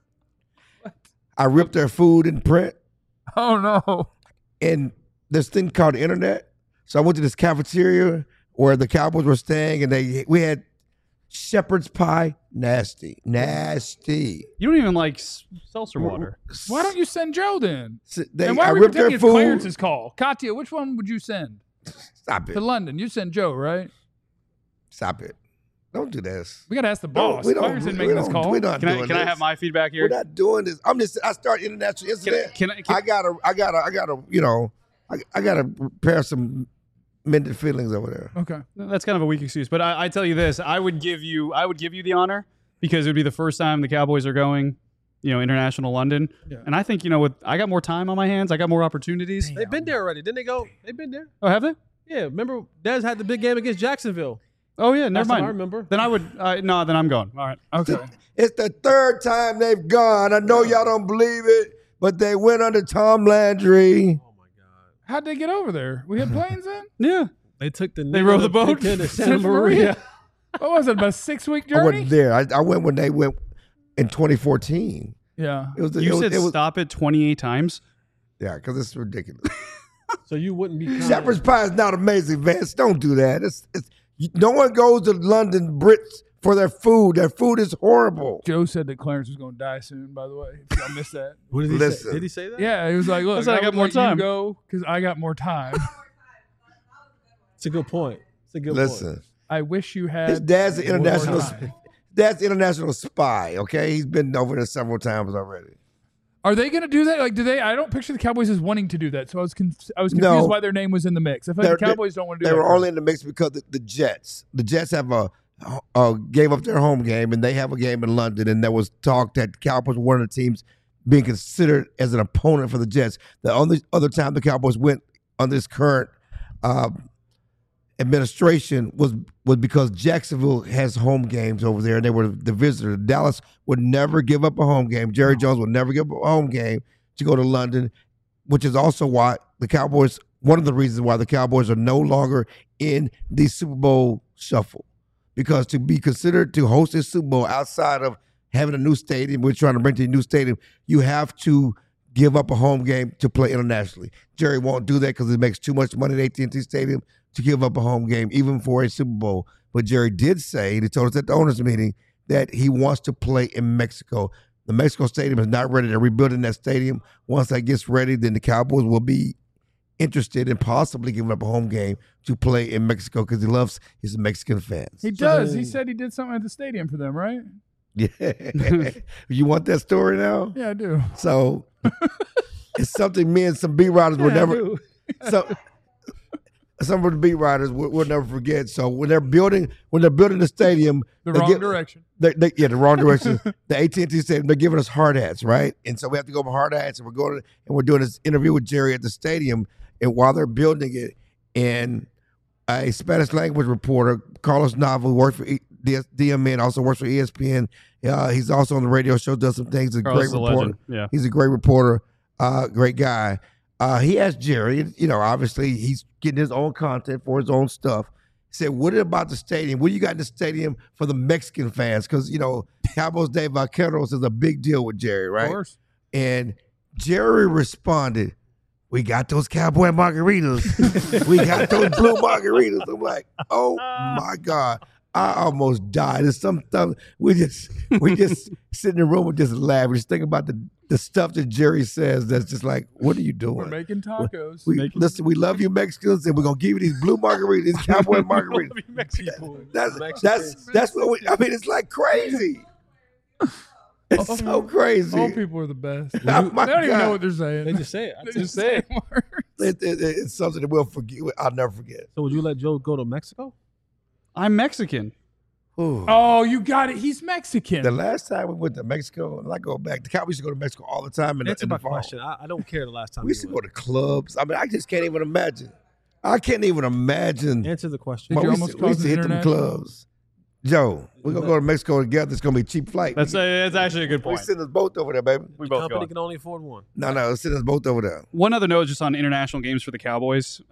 I ripped their food in print Oh, no. and this thing called the internet. So I went to this cafeteria where the Cowboys were staying, and we had shepherd's pie. Nasty. You don't even like seltzer water. Why don't you send Joe then? And why I are we ripped their pretending it's food. Clarence's call? Katya, which one would you send Stop it. to London? You send Joe, right? Stop it. Don't do this. We got to ask the No, boss. Clarence didn't make this call. We're not Can doing I this. have my feedback We're here? not doing this. I start international incident. Can I gotta, I gotta repair some mended feelings over there. Okay. That's kind of a weak excuse, but I tell you this: I would give you the honor because it would be the first time the Cowboys are going, international London. Yeah. And I think, I got more time on my hands. I got more opportunities. They've been there already. Didn't they go? They've been there. Oh, have they? Yeah, remember Dez had the big game against Jacksonville. Oh, yeah, never Last time mind. I remember. Then I would, no, then I'm going. All right. Okay. It's the third time they've gone. I know y'all don't believe it, but they went under Tom Landry. Oh my God! How'd they get over there? We had planes in? Yeah. They took the. They rowed the boat? to Santa Santa Maria. Maria. What was it, about a 6-week I journey? wasn't there. I went when they went in 2014. Yeah. It was. You it said was, stop it 28 times. Yeah, because it's ridiculous. So you wouldn't be. Shepherd's pie is not amazing, Vance. Don't do that. No one goes to London Brits for their food. Their food is horrible. Joe said that Clarence was going to die soon, by the way. If y'all missed that. What did he Listen. say? Did he say that? Yeah, he was like, look, I said I got would more let time. You go because I got more time. It's a good point. It's a good Listen, point. I wish you had his dad's an more international. time. Dad's international spy. Okay, he's been over there several times already. Are they going to do that? Like, do they? I don't picture the Cowboys as wanting to do that. So I was confused No. why their name was in the mix. I feel like the Cowboys don't want to do They that. were only in the mix because the Jets. The Jets have gave up their home game, and they have a game in London. And there was talk that Cowboys were one of the teams being considered as an opponent for the Jets. The only other time the Cowboys went under this current administration was because Jacksonville has home games over there, and they were the visitor. Dallas would never give up a home game. Jerry Jones would never give up a home game to go to London, which is also why the Cowboys, one of the reasons why the Cowboys are no longer in the Super Bowl shuffle. Because to be considered to host a Super Bowl outside of having a new stadium, we're trying to bring to a new stadium, you have to give up a home game to play internationally. Jerry won't do that because it makes too much money at AT&T Stadium to give up a home game, even for a Super Bowl. But Jerry did say, he told us at the owners' meeting, that he wants to play in Mexico. The Mexico Stadium is not ready. They're rebuilding that stadium. Once that gets ready, then the Cowboys will be interested in possibly giving up a home game to play in Mexico because he loves his Mexican fans. He does. He said he did something at the stadium for them, right? Yeah. You want that story now? Yeah, I do. So it's something me and some beat writers will never. Some of the beat writers will never forget. So when they're building the stadium, The wrong direction. The wrong direction. The AT&T Stadium, they're giving us hard hats, right? And so we have to go for hard hats, and we're doing this interview with Jerry at the stadium, and while they're building it, and a Spanish language reporter, Carlos Nava, who works for DMN, also works for ESPN. He's also on the radio show, does some things. He's a Carlos great is a reporter. legend. Yeah. He's a great reporter, great guy. He asked Jerry, obviously he's getting his own content for his own stuff. He said, what about the stadium? What do you got in the stadium for the Mexican fans? Because, Cowboys Day Vaqueros is a big deal with Jerry, right? Of course. And Jerry responded, we got those cowboy margaritas. We got those blue margaritas. I'm like, oh my God. I almost died. It's sometimes we just sit in the room and just laugh. We just think about the stuff that Jerry says that's just like, what are you doing? We're making tacos. Listen, we love you Mexicans, and we're gonna give you these blue margaritas, these cowboy margaritas. That's what it's like crazy. It's so crazy. Old people are the best. Oh, my They don't even God. know what they're saying. They just say it. They just say words. It's something that we'll forget. I'll never forget. So would you let Joe go to Mexico? I'm Mexican. Ooh. Oh, you got it. He's Mexican. The last time we went to Mexico, and I go back, the Cowboys used to go to Mexico all the time in Answer the my fall. question. I don't care the last time. We used to you go to clubs. I mean, I just can't even imagine. I can't even imagine. Answer the question. Did But you we almost used to cause an hit them international? clubs. Joe, we're going to go to Mexico together. It's going to be a cheap flight. That's actually a good We point. send us both over there, baby. We The both company go. can only afford one. No, send us both over there. One other note just on international games for the Cowboys.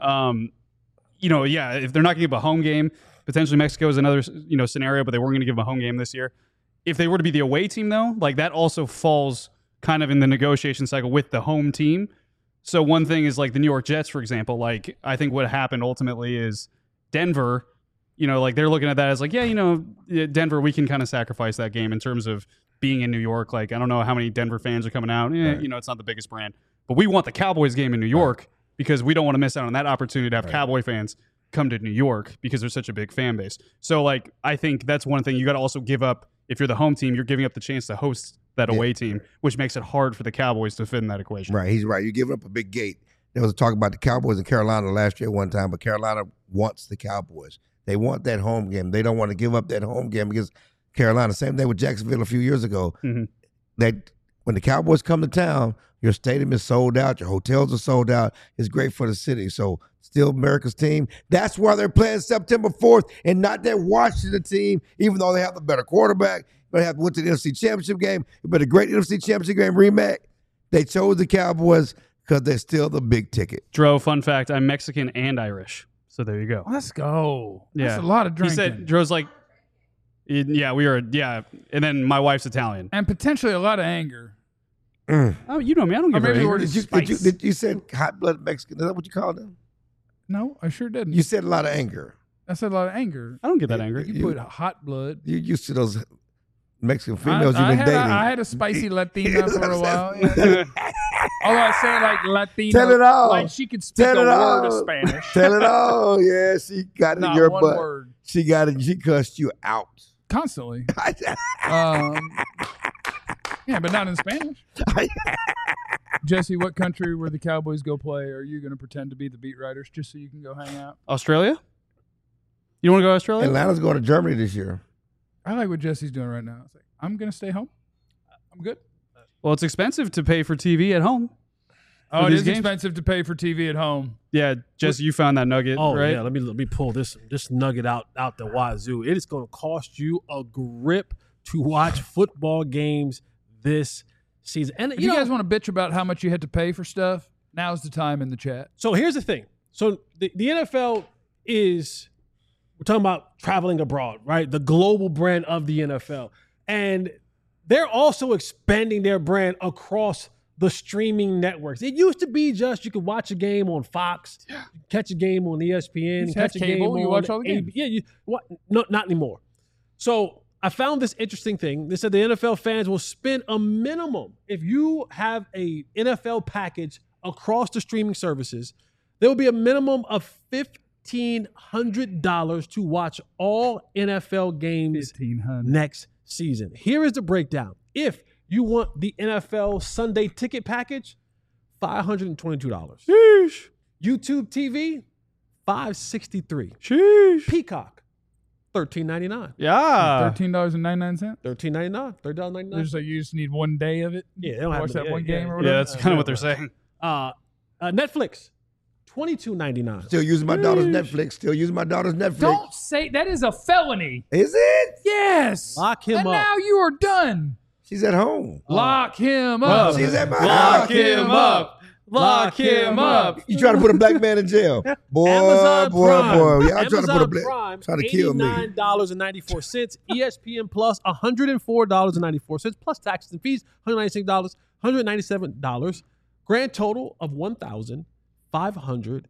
If they're not going to give a home game, potentially Mexico is another scenario, but they weren't going to give them a home game this year. If they were to be the away team, though, like that also falls kind of in the negotiation cycle with the home team. So one thing is like the New York Jets, for example. Like I think what happened ultimately is Denver. Like they're looking at that as like, Denver, we can kind of sacrifice that game in terms of being in New York. Like I don't know how many Denver fans are coming out. Right. It's not the biggest brand, but we want the Cowboys game in New York because we don't want to miss out on that opportunity to have Cowboy fans come to New York because they're such a big fan base. So like I think that's one thing you got to also give up. If you're the home team, you're giving up the chance to host that away team, which makes it hard for the Cowboys to fit in that equation. Right, he's right. You're giving up a big gate. There was a talk about the Cowboys in Carolina last year one time, but Carolina wants the Cowboys. They want that home game. They don't want to give up that home game because Carolina. Same thing with Jacksonville a few years ago. Mhm. That when the Cowboys come to town, your stadium is sold out, your hotels are sold out. It's great for the city. So still America's team. That's why they're playing September 4th and not that Washington team, even though they have the better quarterback. But have went to the NFC Championship game. But a great NFC Championship game rematch. They chose the Cowboys because they're still the big ticket. Dro, fun fact, I'm Mexican and Irish. So there you go. Let's go. Yeah. That's a lot of He drinking. said, Dro's like, yeah, we are, yeah. And then my wife's Italian. and potentially a lot of anger. Oh, you know me. I don't give maybe a the shit. word is You said hot-blooded Mexican. Is that what you called them? No, I sure didn't. You said a lot of anger. I said a lot of anger. I don't get that angry. You put hot blood. You used to those Mexican females you've I been dating. had a spicy Latina for a while. Yeah. Although I say like Latina, Tell it all. like she could speak Tell a it word all. of Spanish. Tell it all. Yeah, she got it in Not your one butt. word. She got it. She cussed you out. Constantly. Yeah, but not in Spanish. Jesse, what country where the Cowboys go play are you going to pretend to be the beat writers just so you can go hang out? Australia? You want to go to Australia? Atlanta's going to Germany this year. I like what Jesse's doing right now. It's like, I'm going to stay home. I'm good. Well, it's expensive to pay for TV at home. Oh, it these is games? expensive to pay for TV at home. Yeah, Jesse, you found that nugget, Oh right? yeah, let me pull this nugget out the wazoo. It is going to cost you a grip to watch football games this season. And If you guys want to bitch about how much you had to pay for stuff, now's the time in the chat. So here's the thing. So the NFL is, we're talking about traveling abroad, right? The global brand of the NFL. And they're also expanding their brand across the streaming networks. It used to be just you could watch a game on Fox, catch a game on ESPN, just have catch a game cable, on you watch all the games. Yeah, no, not anymore. So I found this interesting thing. They said the NFL fans will spend a minimum, if you have a NFL package across the streaming services, there will be a minimum of $1,500 to watch all NFL games 1,500. next season. Here is the breakdown. If you want the NFL Sunday ticket package, $522. Sheesh. YouTube TV, $563. Sheesh. Peacock, $13.99. Yeah. $13.99. $13.99. $13.99. There's like you just need one day of it. Yeah, they don't have watch to- that one yeah, game yeah. or Yeah, whatever. that's kind of what they're saying. Netflix, $22.99. Still using my daughter's Netflix. Still using my daughter's Netflix. Don't say that is a felony. Is it? Yes. Lock him and up. now you are done. She's at home. Lock him up. She's at my Lock house. him up. Lock him up. You trying to put a black man in jail? Boy, Amazon boy, Prime. boy. Y'all trying to Amazon put a black, Prime, trying to kill me. $89.94. ESPN Plus, $104.94 plus taxes and fees, $196, $197. Grand total of $1,515.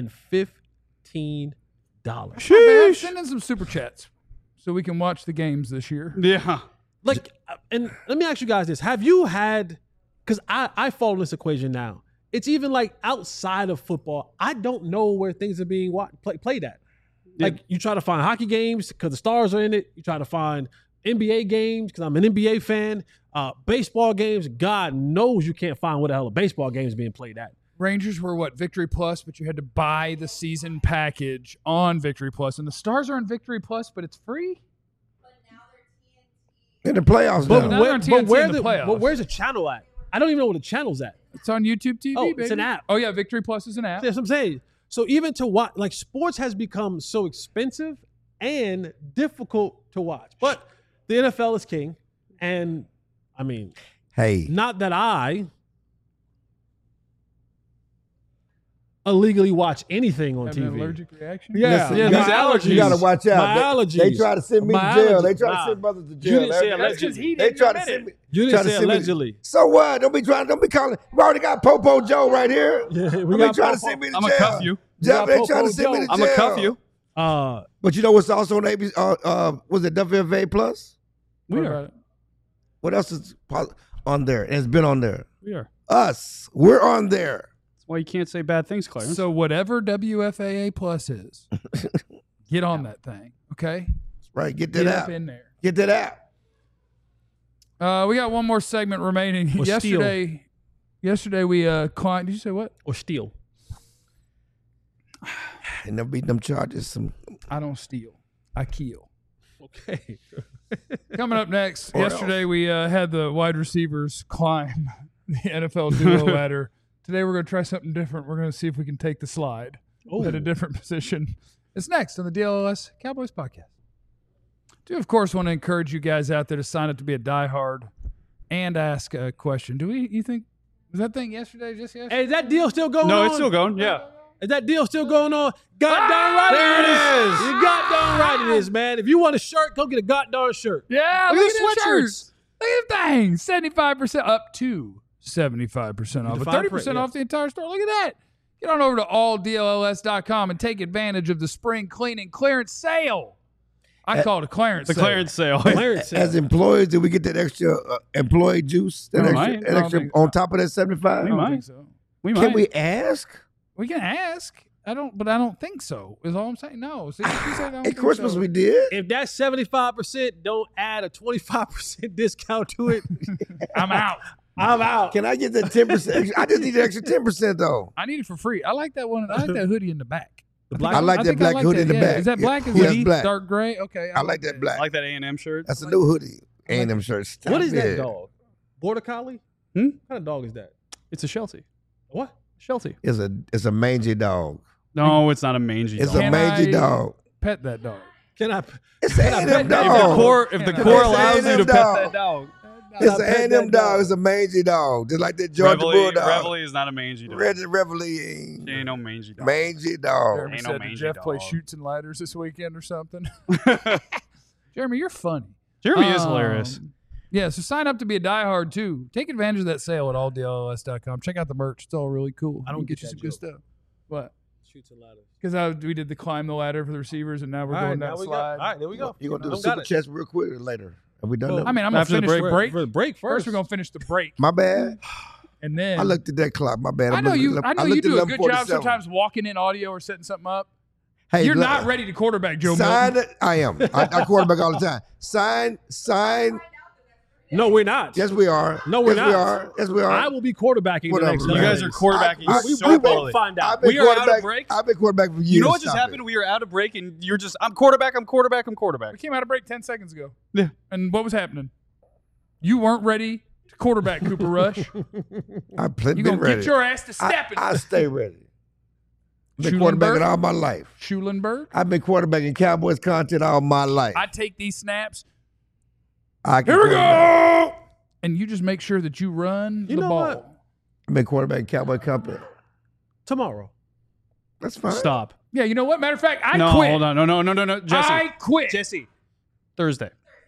Sheesh. Send in some super chats so we can watch the games this year. Yeah. Like, and let me ask you guys this: have you had? Because I follow this equation now. It's even like outside of football. I don't know where things are being played at. Like you try to find hockey games because the Stars are in it. You try to find NBA games because I'm an NBA fan. Baseball games, God knows you can't find where the hell a baseball game is being played at. Rangers were what, Victory Plus, but you had to buy the season package on Victory Plus. And the Stars are on Victory Plus, but it's free? In the playoffs But, now. now they're on TNT in the playoffs. but where's the channel at? I don't even know where the channel's at. It's on YouTube TV, Oh, baby. it's an app. Oh, yeah, Victory Plus is an app. That's what I'm saying. So even to watch, like sports has become so expensive and difficult to watch. But the NFL is king. And I mean, Hey, not that I illegally watch anything on Having an TV. allergic reaction? Yeah, listen, yeah, you these gotta- allergies. You got to watch out. My allergies. They try to send me to My jail. allergies. They try to Nah. send brothers to You jail. didn't say They- allegedly. They try to send me. You try didn't to say send me- allegedly. So what? Don't be calling. We already got Popo Joe right here. Yeah, we Don't be got trying to Popo. send me to I'm jail. going to cuff you. Yeah, got they trying Popo to send me to Joe. jail. I'm going to cuff you. But you know what's also on ABC? Was it WFA Plus? What We about are. it? What else is on there? And it's been on there. We are. Us. We're on there. That's why you can't say bad things, Clarence. So whatever WFAA Plus is, get on that thing, okay? Right. Get Get that up out. in there. Get that out. We got one more segment remaining. Or Yesterday we climbed. Did you say what? Or steal. And they'll beat them charges. I don't steal. I kill. Okay. Coming up next, Or yesterday we had the wide receivers climb the NFL duo ladder. Today we're going to try something different. We're going to see if we can take the slide at a different position. It's next on the DLS Cowboys podcast. Do, of course, want to encourage you guys out there to sign up to be a diehard and ask a question. You think, was that thing yesterday, just yesterday? Hey, is that deal still going on? No, it's still going. Yeah. Is that deal still going on? God darn right there it it is. is. You god darn right it is, man. If you want a shirt, go get a god darn shirt. Yeah, Look look at at the the sweatshirts. shirts. Look at the thing. 75% up to 75% off. But 30% off the entire store. Look at that. Get on over to alldlls.com and take advantage of the spring cleaning clearance sale. I call it a clearance The sale. clearance sale. Clearance sale. As employees, did we get that extra employee juice? That We extra, might. that I don't extra think on so. top of that 75? I don't might. think so. We Can might. we ask? We can ask. I don't think so. Is all I'm saying. No. See, she said I don't At think Christmas so. we did. If that 75% don't add a 25% discount to it, I'm out. I'm out. Can I get that 10%? I just need the extra 10% though. I need it for free. I like that one. I like that hoodie in the back. The black I like that black hoodie in the yeah. back. Is that Yeah. black? Is Yes, that black. dark gray? Okay. I like that black. I like that A&M shirt. That's a new hoodie. A&M shirt. Stop What is that it. dog? Border Collie? Hmm? What kind of dog is that? It's a Sheltie. What? Sheltie. It's a mangy dog. No, it's not a mangy It's dog. a mangy dog. Pet that dog. Can I? It's Can I an pet A&M that? If the dog. core, if the It's core an allows you A&M to pet dog. that dog. It's I an pet A&M that dog. It's a mangy dog. Just like that Georgia Bulldog. Reveille is not a mangy dog. Reveille. Ain't no mangy dog. Mangy dog. Jeremy Ain't no said, did mangy Jeff play dog. shoots and ladders this weekend or something? Jeremy, you're funny. Jeremy is hilarious. Yeah, so sign up to be a diehard too. Take advantage of that sale at alldlls.com. Check out the merch. It's all really cool. I don't We can get you that some good joke. stuff. What? Shoots and ladders. Because we did the climb the ladder for the receivers, and now we're All going right, down now the we got. slide. All right, there we go. You're going to do the I got super it. chats real quick or later? Have we done Well, that? I mean, I'm going to After the finish the break. break. For the break First, first. we're going to finish the break. My bad. And then I looked at that clock. My bad. I know you looked do at a good job 11:47. sometimes walking in audio or setting something up. Hey, You're look, not ready to quarterback Joe sign Milton. it. I am. I quarterback all the time. Sign. No, we're not. Yes, we are. No, we're yes, not. We are. Yes, we are. I will be quarterbacking Whatever, the next man. You guys are quarterbacking so we poorly. won't find out. I've been We are out of quarterback- break. I've been quarterback for years. You know what just Stop happened? it. We are out of break, and you're just, I'm quarterback. We came out of break 10 seconds ago. Yeah. And what was happening? You weren't ready to quarterback Cooper Rush. I've been You're going to ready. get your ass to stepping. I stay ready. I've been Schulenberg? quarterbacking all my life. Schulenberg. I've been quarterbacking Cowboys content all my life. I take these snaps, I can Here we quarterback. go! and you just make sure that you run You the know ball. what? I've been quarterbacking Cowboy company. Tomorrow. That's fine. Stop. Yeah, you know what? Matter of fact, I no, quit. hold on. No. Jesse. I quit. Jesse. Thursday.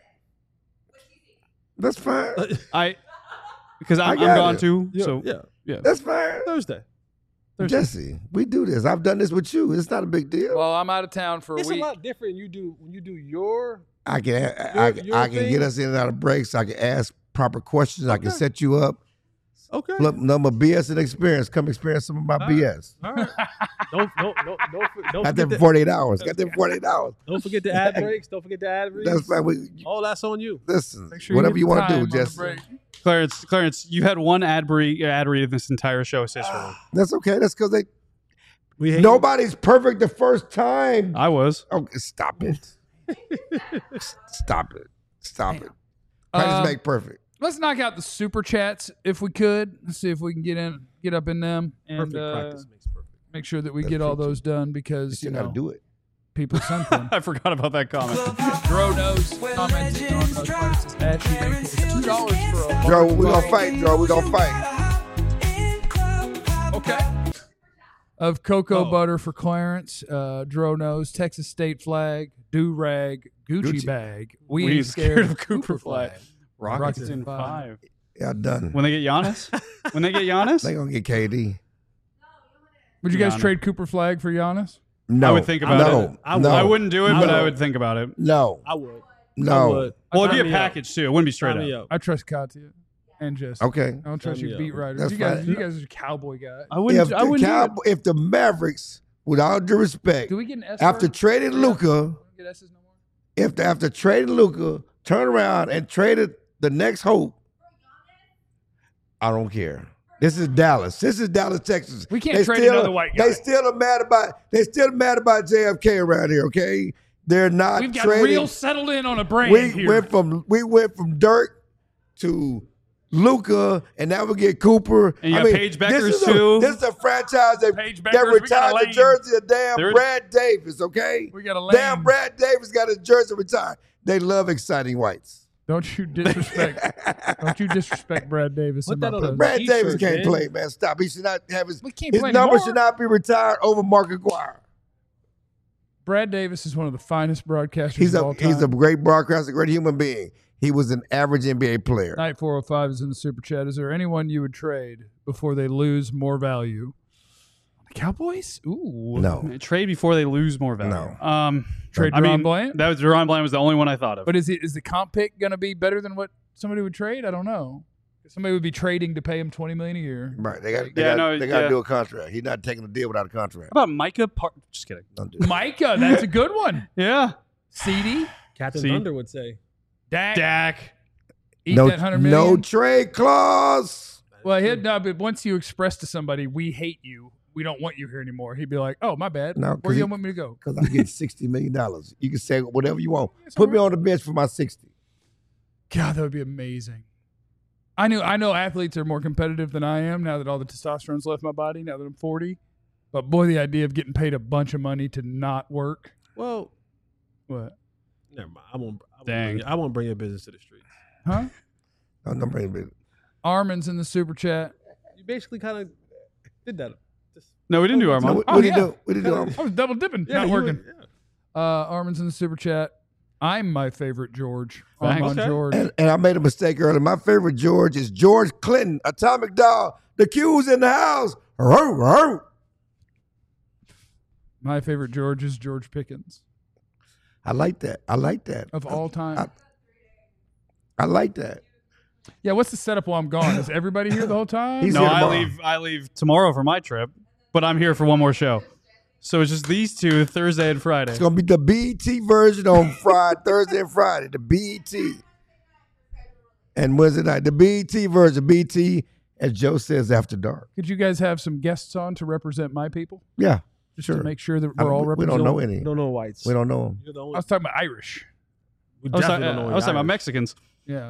That's fine. Because I'm got gone it. too. Yeah, So yeah. That's fine. Thursday. Jesse, we do this. I've done this with you. It's not a big deal. Well, I'm out of town for It's a week. a lot different when you do your. I can your I can thing? get us in and out of breaks. I can ask proper questions. I can Okay. set you up. Okay. Flip number BS and experience. Come experience some of my BS. All right. Don't Got forget them the, 48 hours. Got them 48 hours. don't forget the ad breaks. Don't forget the ad reads. That's fine. All that's on you. Listen, Make sure whatever get you the want to time do, on the Jesse. break. Clarence, you had one ad read in this entire show, sister. That's okay. That's because We hate nobody's perfect the first time. I was. Okay, stop it. Stop it. Stop it. Practice make perfect. Let's knock out the super chats if we could. Let's see if we can get up in them and perfect practice makes perfect. make sure that we That's get all true, too. those done You because still got to do it. people something. I forgot about that comment. Dro knows commenting on Clarence' ashy ankles. $2 for a Joe, we're going to fight, Joe. We're going to fight. Okay. Of cocoa Oh. butter for Clarence, Dro knows, Texas state flag, do-rag, Gucci Gucci. bag. We ain't scared of Cooper flag. Rockets in 5. Yeah, done. When they get Giannis? When they get Giannis? They going to get KD. Would you guys Giannis. trade Cooper flag for Giannis? No. I would think about no, it. I would. No. I wouldn't do it, but No. I would think about it. No. I would. No. I would. Well, it'd be Sign a me up. package too. It wouldn't be straight Sign me up. up. I trust Katya and Jesse. Okay. I don't trust Sign you me beat up. writers. That's You guys, fine. you guys are cowboy guys. I wouldn't. I wouldn't. do it. If the Mavericks, with all due respect, Do we get an S after word? trading Luca, We don't get S's no more? after trading Luca, turn around and traded the next hope, I don't care. This is Dallas. This is Dallas, Texas. We can't trade another white guy. They still are mad about JFK around here, okay? They're not We've got trading. real settled in on a brand We here. went from Dirk to Luka, and now we get Cooper. And you got Paige Beckers, too. This is a franchise Paige that Beckers, we got retired a the lane. jersey of damn They're- Brad Davis, okay? We got a lane. Damn Brad Davis got his jersey retired. They love exciting whites. Don't you disrespect Brad Davis. Put in that my on a presence. Brad T-shirt, Davis can't man. play, man. Stop. He should not have his We can't his play number anymore. should not be retired over Mark Aguirre. Brad Davis is one of the finest broadcasters He's of all time. a great broadcaster, great human being. He was an average NBA player. Night 405 is in the super chat. Is there anyone you would trade before they lose more value? The Cowboys? Ooh. No. Trade before they lose more value. No. Trade I Deron mean, Bryant? that was Deron Bryant was the only one I thought of. But is the comp pick going to be better than what somebody would trade? I don't know. Somebody would be trading to pay him $20 million a year. Right. They got to Yeah. do a contract. He's not taking a deal without a contract. How about Micah? Just kidding. Don't do that. Micah, that's a good one. Yeah. CD, Captain See? Thunder would say. Dak. Eat No, that $100 million. no trade clause. Well, but once you express to somebody, we hate you, we don't want you here anymore, he'd be like, oh, my bad. No, 'cause Where do you he- want me to go? Because I get $60 million. You can say whatever you want. It's Put all me right. on the bench for my 60. God, that would be amazing. I know athletes are more competitive than I am now that all the testosterone's left my body, now that I'm 40. But boy, the idea of getting paid a bunch of money to not work. Well, What? never mind. I won't Dang. bring your business to the streets. Huh? I'm not bringing it. Armin's in the super chat. You basically kind of did that. Just, No, we didn't do No, Armand. what Oh, do you yeah. do? What do you do? I was double dipping, not you working. would- yeah. Armin's in the super chat. I'm my favorite George. Thanks. Armand Okay. George. And I made a mistake earlier. My favorite George is George Clinton, Atomic Dog. The Q's in the house. Row, row. My favorite George is George Pickens I like that. I like that. of all time. I like that. Yeah, what's the setup while I'm gone? Is everybody here the whole time? He's No, here I tomorrow. leave tomorrow for my trip, but I'm here for one more show. So it's just these two, Thursday and Friday. It's gonna be the BET version on Friday, Thursday, and Friday. The BET. And Wednesday night, the BET version. BET, as Joe says, after dark. Could you guys have some guests on to represent my people? Yeah, Just sure. to make sure that I we're all we represented? don't know any. You don't know whites. We don't know them. You're the I only. was talking about Irish. We I was definitely talking don't know I was talking about Irish. Mexicans. Yeah.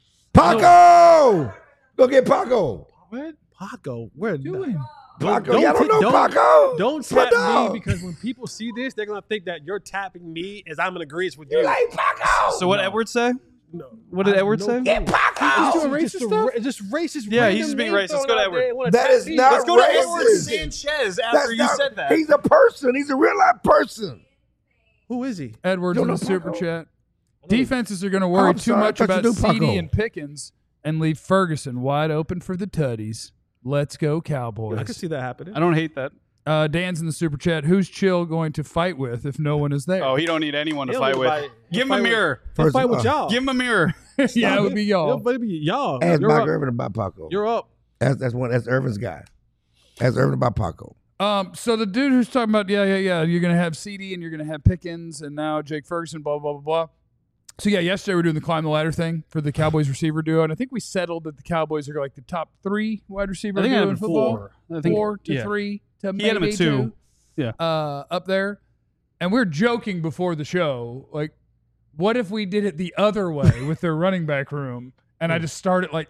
Paco! Go get Paco. What? Paco? Where? Doing? Paco. Y'all don't know Paco? Don't It's my tap dog. me because when people see this, they're gonna think that you're tapping me as I'm in agreement with you. You like Paco? So what Edwards say? No. What did I have Edwards no say? clue. Get Paco! doing Just racist a stuff? just racist. Yeah, random he's just being name racist. Let's thrown go to out there. Edward. Wanna That tap is me. not Let's go to racist. Edward. Sanchez That's not- He's a person. He's a real life person. Who is he? Edwards You in don't the know super Paco? chat. Defenses are going to worry I'm too sorry, I much thought you about knew CD Paco. and Pickens and leave Ferguson wide open for the tutties. Let's go I can Cowboys. see that happening. I don't hate that. Dan's in the super chat. Who's Chill going to fight with if no one is there? Oh, he don't need anyone to He'll fight with. fight- Give him a fight with- mirror. He'll First fight of with all, y'all. Give him a mirror. yeah, it would be y'all. Maybe y'all. Ask You're Mike up. Irvin about Paco. You're up. That's Irvin's guy. Ask Irvin about Paco. So the dude who's talking about, yeah, you're going to have CD and you're going to have Pickens and now Jake Ferguson, blah, blah, blah, blah. So, yeah, yesterday we were doing the climb the ladder thing for the Cowboys receiver duo, and I think we settled that the Cowboys are like the top 3 wide receiver I think I duo had in him football. 4. I think 4 to yeah. 3 to He had him at maybe 2. Yeah. up there. And we're joking before the show, like, what if we did it the other way with their running back room and I just start at like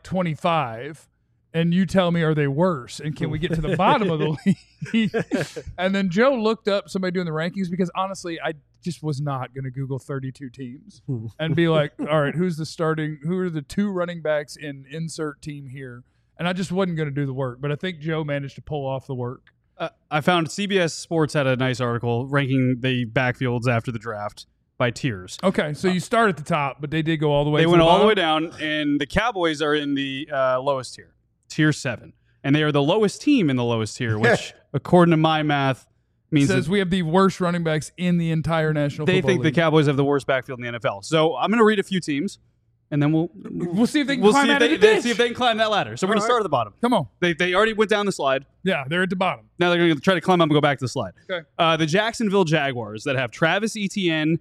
25 and you tell me, are they worse? And can we get to the bottom of the league? And then Joe looked up somebody doing the rankings because honestly, I just was not going to Google 32 teams and be like, all right, who are the 2 running backs in insert team here? And I just wasn't going to do the work, but I think Joe managed to pull off the work. I found CBS Sports had a nice article ranking the backfields after the draft by tiers. Okay, so you start at the top, but they did go all the way. They to went the all the bottom? way down, and the Cowboys are in the lowest tier, tier 7. And they are the lowest team in the lowest tier, which, according to my math, means Says that we have the worst running backs in the entire National they Football think the League. Cowboys have the worst backfield in the NFL. So I'm going to read a few teams, and then we'll We'll see if they can we'll climb see out if of the ditch. see if they can climb that ladder. So we're going to start at the bottom. Come on. They already went down the slide. Yeah, they're at the bottom. Now they're going to try to climb up and go back to the slide. Okay. The Jacksonville Jaguars that have Travis Etienne,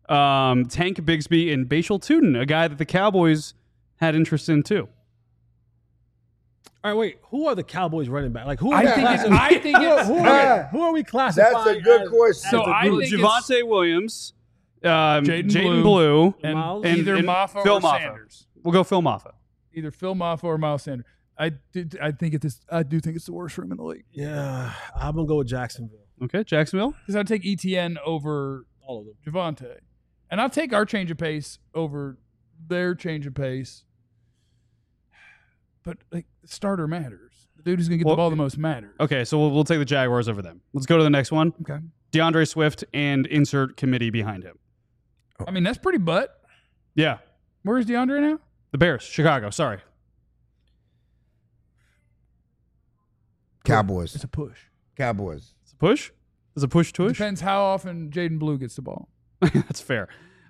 Tank Bigsby, and Bashal Tuden, a guy that the Cowboys had interest in too. All right, wait. Who are the Cowboys running back? Like who? I think it's who are we classifying? That's a good as- question. So as the I group? think Javonte Williams, Jaden Blue, and Miles? either and Maffa Phil or Maffa. Sanders. We'll go Phil Maffa. Either Phil Maffa or Miles Sanders. I do think it's the worst room in the league. Yeah, I'm gonna go with Jacksonville. Okay, Jacksonville. Because I'd take ETN over All of them. Javonte. And I'll take our change of pace over their change of pace. But like the starter matters. The dude who's gonna get the ball the most matters. Okay, so we'll take the Jaguars over them. Let's go to the next one. Okay. DeAndre Swift and insert committee behind him. I mean, that's pretty butt. Yeah, Where's DeAndre now? the Bears, Chicago. Sorry. Cowboys. It's a push. Cowboys. It's a push. It's a push tush. Depends how often Jaden Blue gets the ball. That's fair.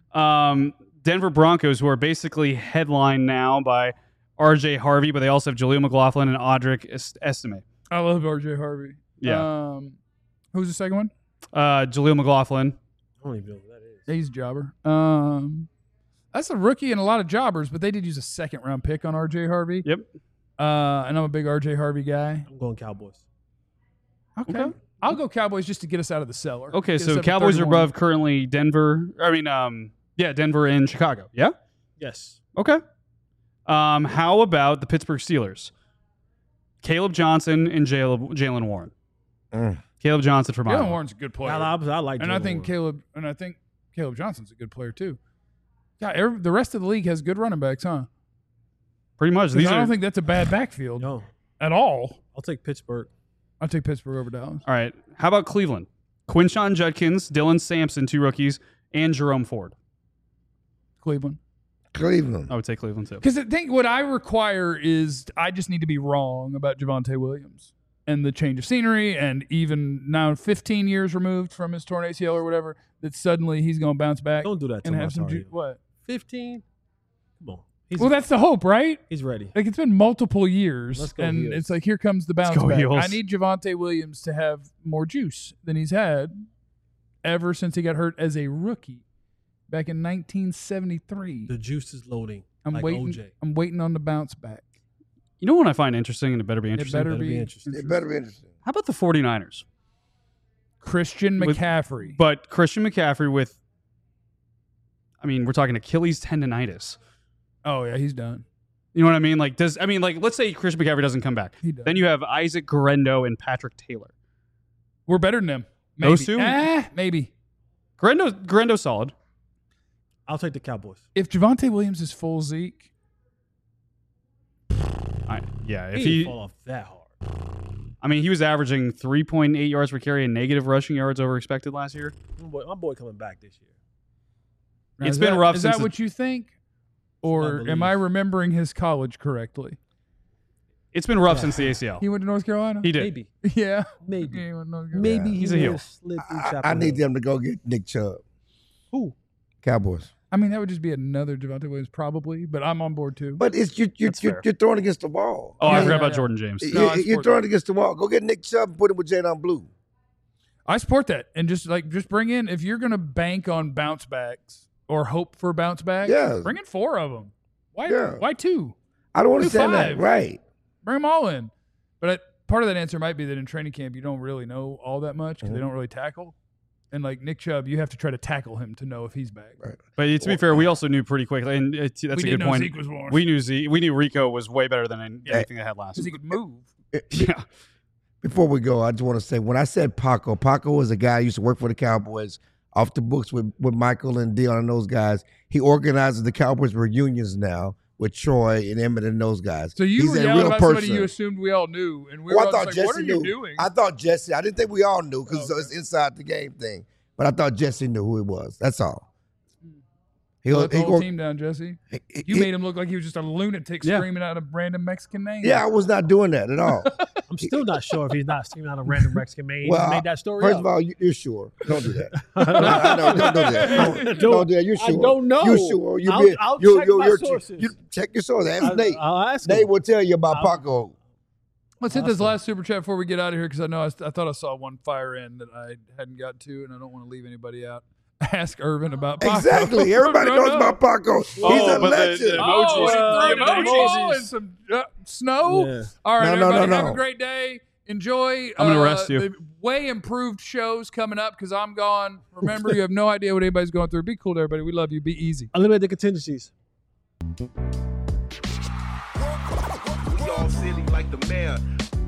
Denver Broncos, who are basically headlined now by R.J. Harvey, but they also have Jaleel McLaughlin and Audric Estime. I love RJ Harvey. Yeah. Who's the second one? Jaleel McLaughlin. I don't even know who that is. Yeah, he's a jobber. That's a rookie and a lot of jobbers, but they did use a second round pick on RJ Harvey. Yep. And I'm a big RJ Harvey guy. I'm going Cowboys. Okay. I'll go Cowboys just to get us out of the cellar. Okay, Get us so up to Cowboys are 31. above currently Denver. Denver and Chicago. Yeah? Yes. Okay. How about the Pittsburgh Steelers? Caleb Johnson and Jalen Warren. Caleb Johnson from Iowa. Jalen Warren's a good player. I like and Jalen I think Warren. Caleb Johnson's a good player too. Yeah, the rest of the league has good running backs, huh? Pretty much. I don't think that's a bad backfield No, at all. I'll take Pittsburgh. I'll take Pittsburgh over Dallas. All right. How about Cleveland? Quinshon Judkins, Dylan Sampson, 2 rookies, and Jerome Ford. Cleveland. Cleveland. I would say Cleveland too. Because I think what I require is I just need to be wrong about Javonte Williams and the change of scenery, and even now 15 years removed from his torn ACL or whatever, that suddenly he's going to bounce back Don't do that to and him. have some I'm sorry. what? 15. Come on. Well, that's the hope, right? He's ready. Like, it's been multiple years, Let's go and Heels. it's like, here comes the bounce go back. Heels. I need Javonte Williams to have more juice than he's had ever since he got hurt as a rookie back in 1973. The juice is loading. I'm like waiting. OJ. I'm waiting on the bounce back. You know what I find interesting, and it better be interesting? It better That'll be be interesting. It better be interesting. How about the 49ers? Christian With- McCaffrey. But Christian McCaffrey with, we're talking Achilles tendonitis. Oh yeah, he's done. You know what I mean? Let's say Christian McCaffrey doesn't come back. He does. Then you have Isaac Guerrero and Patrick Taylor. We're better than them. Maybe. Those two? Maybe. Guerendo's solid. I'll take the Cowboys. If Javonte Williams is full Zeke, If He he, didn't fall off that hard. he was averaging 3.8 yards per carry and negative rushing yards over expected last year. My boy coming back this year. now, It's is been that- rough Is since that the- what you think, or I am I believe. remembering his college correctly? It's been rough since the ACL. He went to North Carolina. He did. Maybe. Yeah. Maybe. He went to North Carolina. Maybe He's a he heel. will slip through I Chapel need Hill. them to go get Nick Chubb. Who? Cowboys. I mean, that would just be another Javonte Williams, probably. But I'm on board too. But it's you're fair. throwing against the wall. Oh, I Yeah, forgot yeah, about yeah. Jordan James. No, I You're support throwing that. against the wall. Go get Nick Chubb and put him with Jadon Blue. I support that, and just bring in, if you're going to bank on bounce backs or hope for bounce backs, Yeah. bring in 4 of them. Why? Yeah. Why 2? I don't Do understand 5. that. Right. Bring them all in. But part of that answer might be that in training camp you don't really know all that much because they don't really tackle. And like Nick Chubb, you have to try to tackle him to know if he's back. Right. But to be fair, we also knew pretty quickly, and that's We a didn't good know point. Zeke was born. We knew Rico was way better than anything they had last Because he year. could move. Yeah. Before we go, I just want to say, when I said Paco was a guy who used to work for the Cowboys off the books with Michael and Dion and those guys. He organizes the Cowboys reunions now with Troy and Emmett and those guys. So you He's were a yelling real about person. somebody you assumed we all knew, and we Oh, were I all thought just like, "What Jesse are knew. you doing?" I thought Jesse. I didn't think we all knew because Okay. it's inside the game thing. But I thought Jesse knew who it was. That's all. Let the whole go- team down, Jesse. he- You he- made him look like he was just a lunatic Yeah. screaming out a random Mexican name. Yeah, I was not doing that at all. I'm still not sure if he's not screaming out a random Mexican man. He Well, just made that story First up. of all, you're sure. Don't do that. No, don't do that. Don't do that. You're I sure. don't know. You're sure. I'll check my sources. You check your sources. Ask Nate. I'll ask him. Nate will tell you about Paco. Let's hit this Awesome. last super chat before we get out of here because I know I thought I saw one fire in that I hadn't got to, and I don't want to leave anybody out. Ask Irvin about Paco. Exactly. Everybody knows about Paco. He's a but the legend. Oh, Emojis. and The threw an emojis. ball and some snow. Yeah. All right, No, everybody, have no. a great day. Enjoy. I'm gonna arrest you. The way improved shows coming up because I'm gone. Remember, you have no idea what anybody's going through. Be cool to everybody. We love you. Be easy. Eliminate the contingencies. We all silly like the mayor.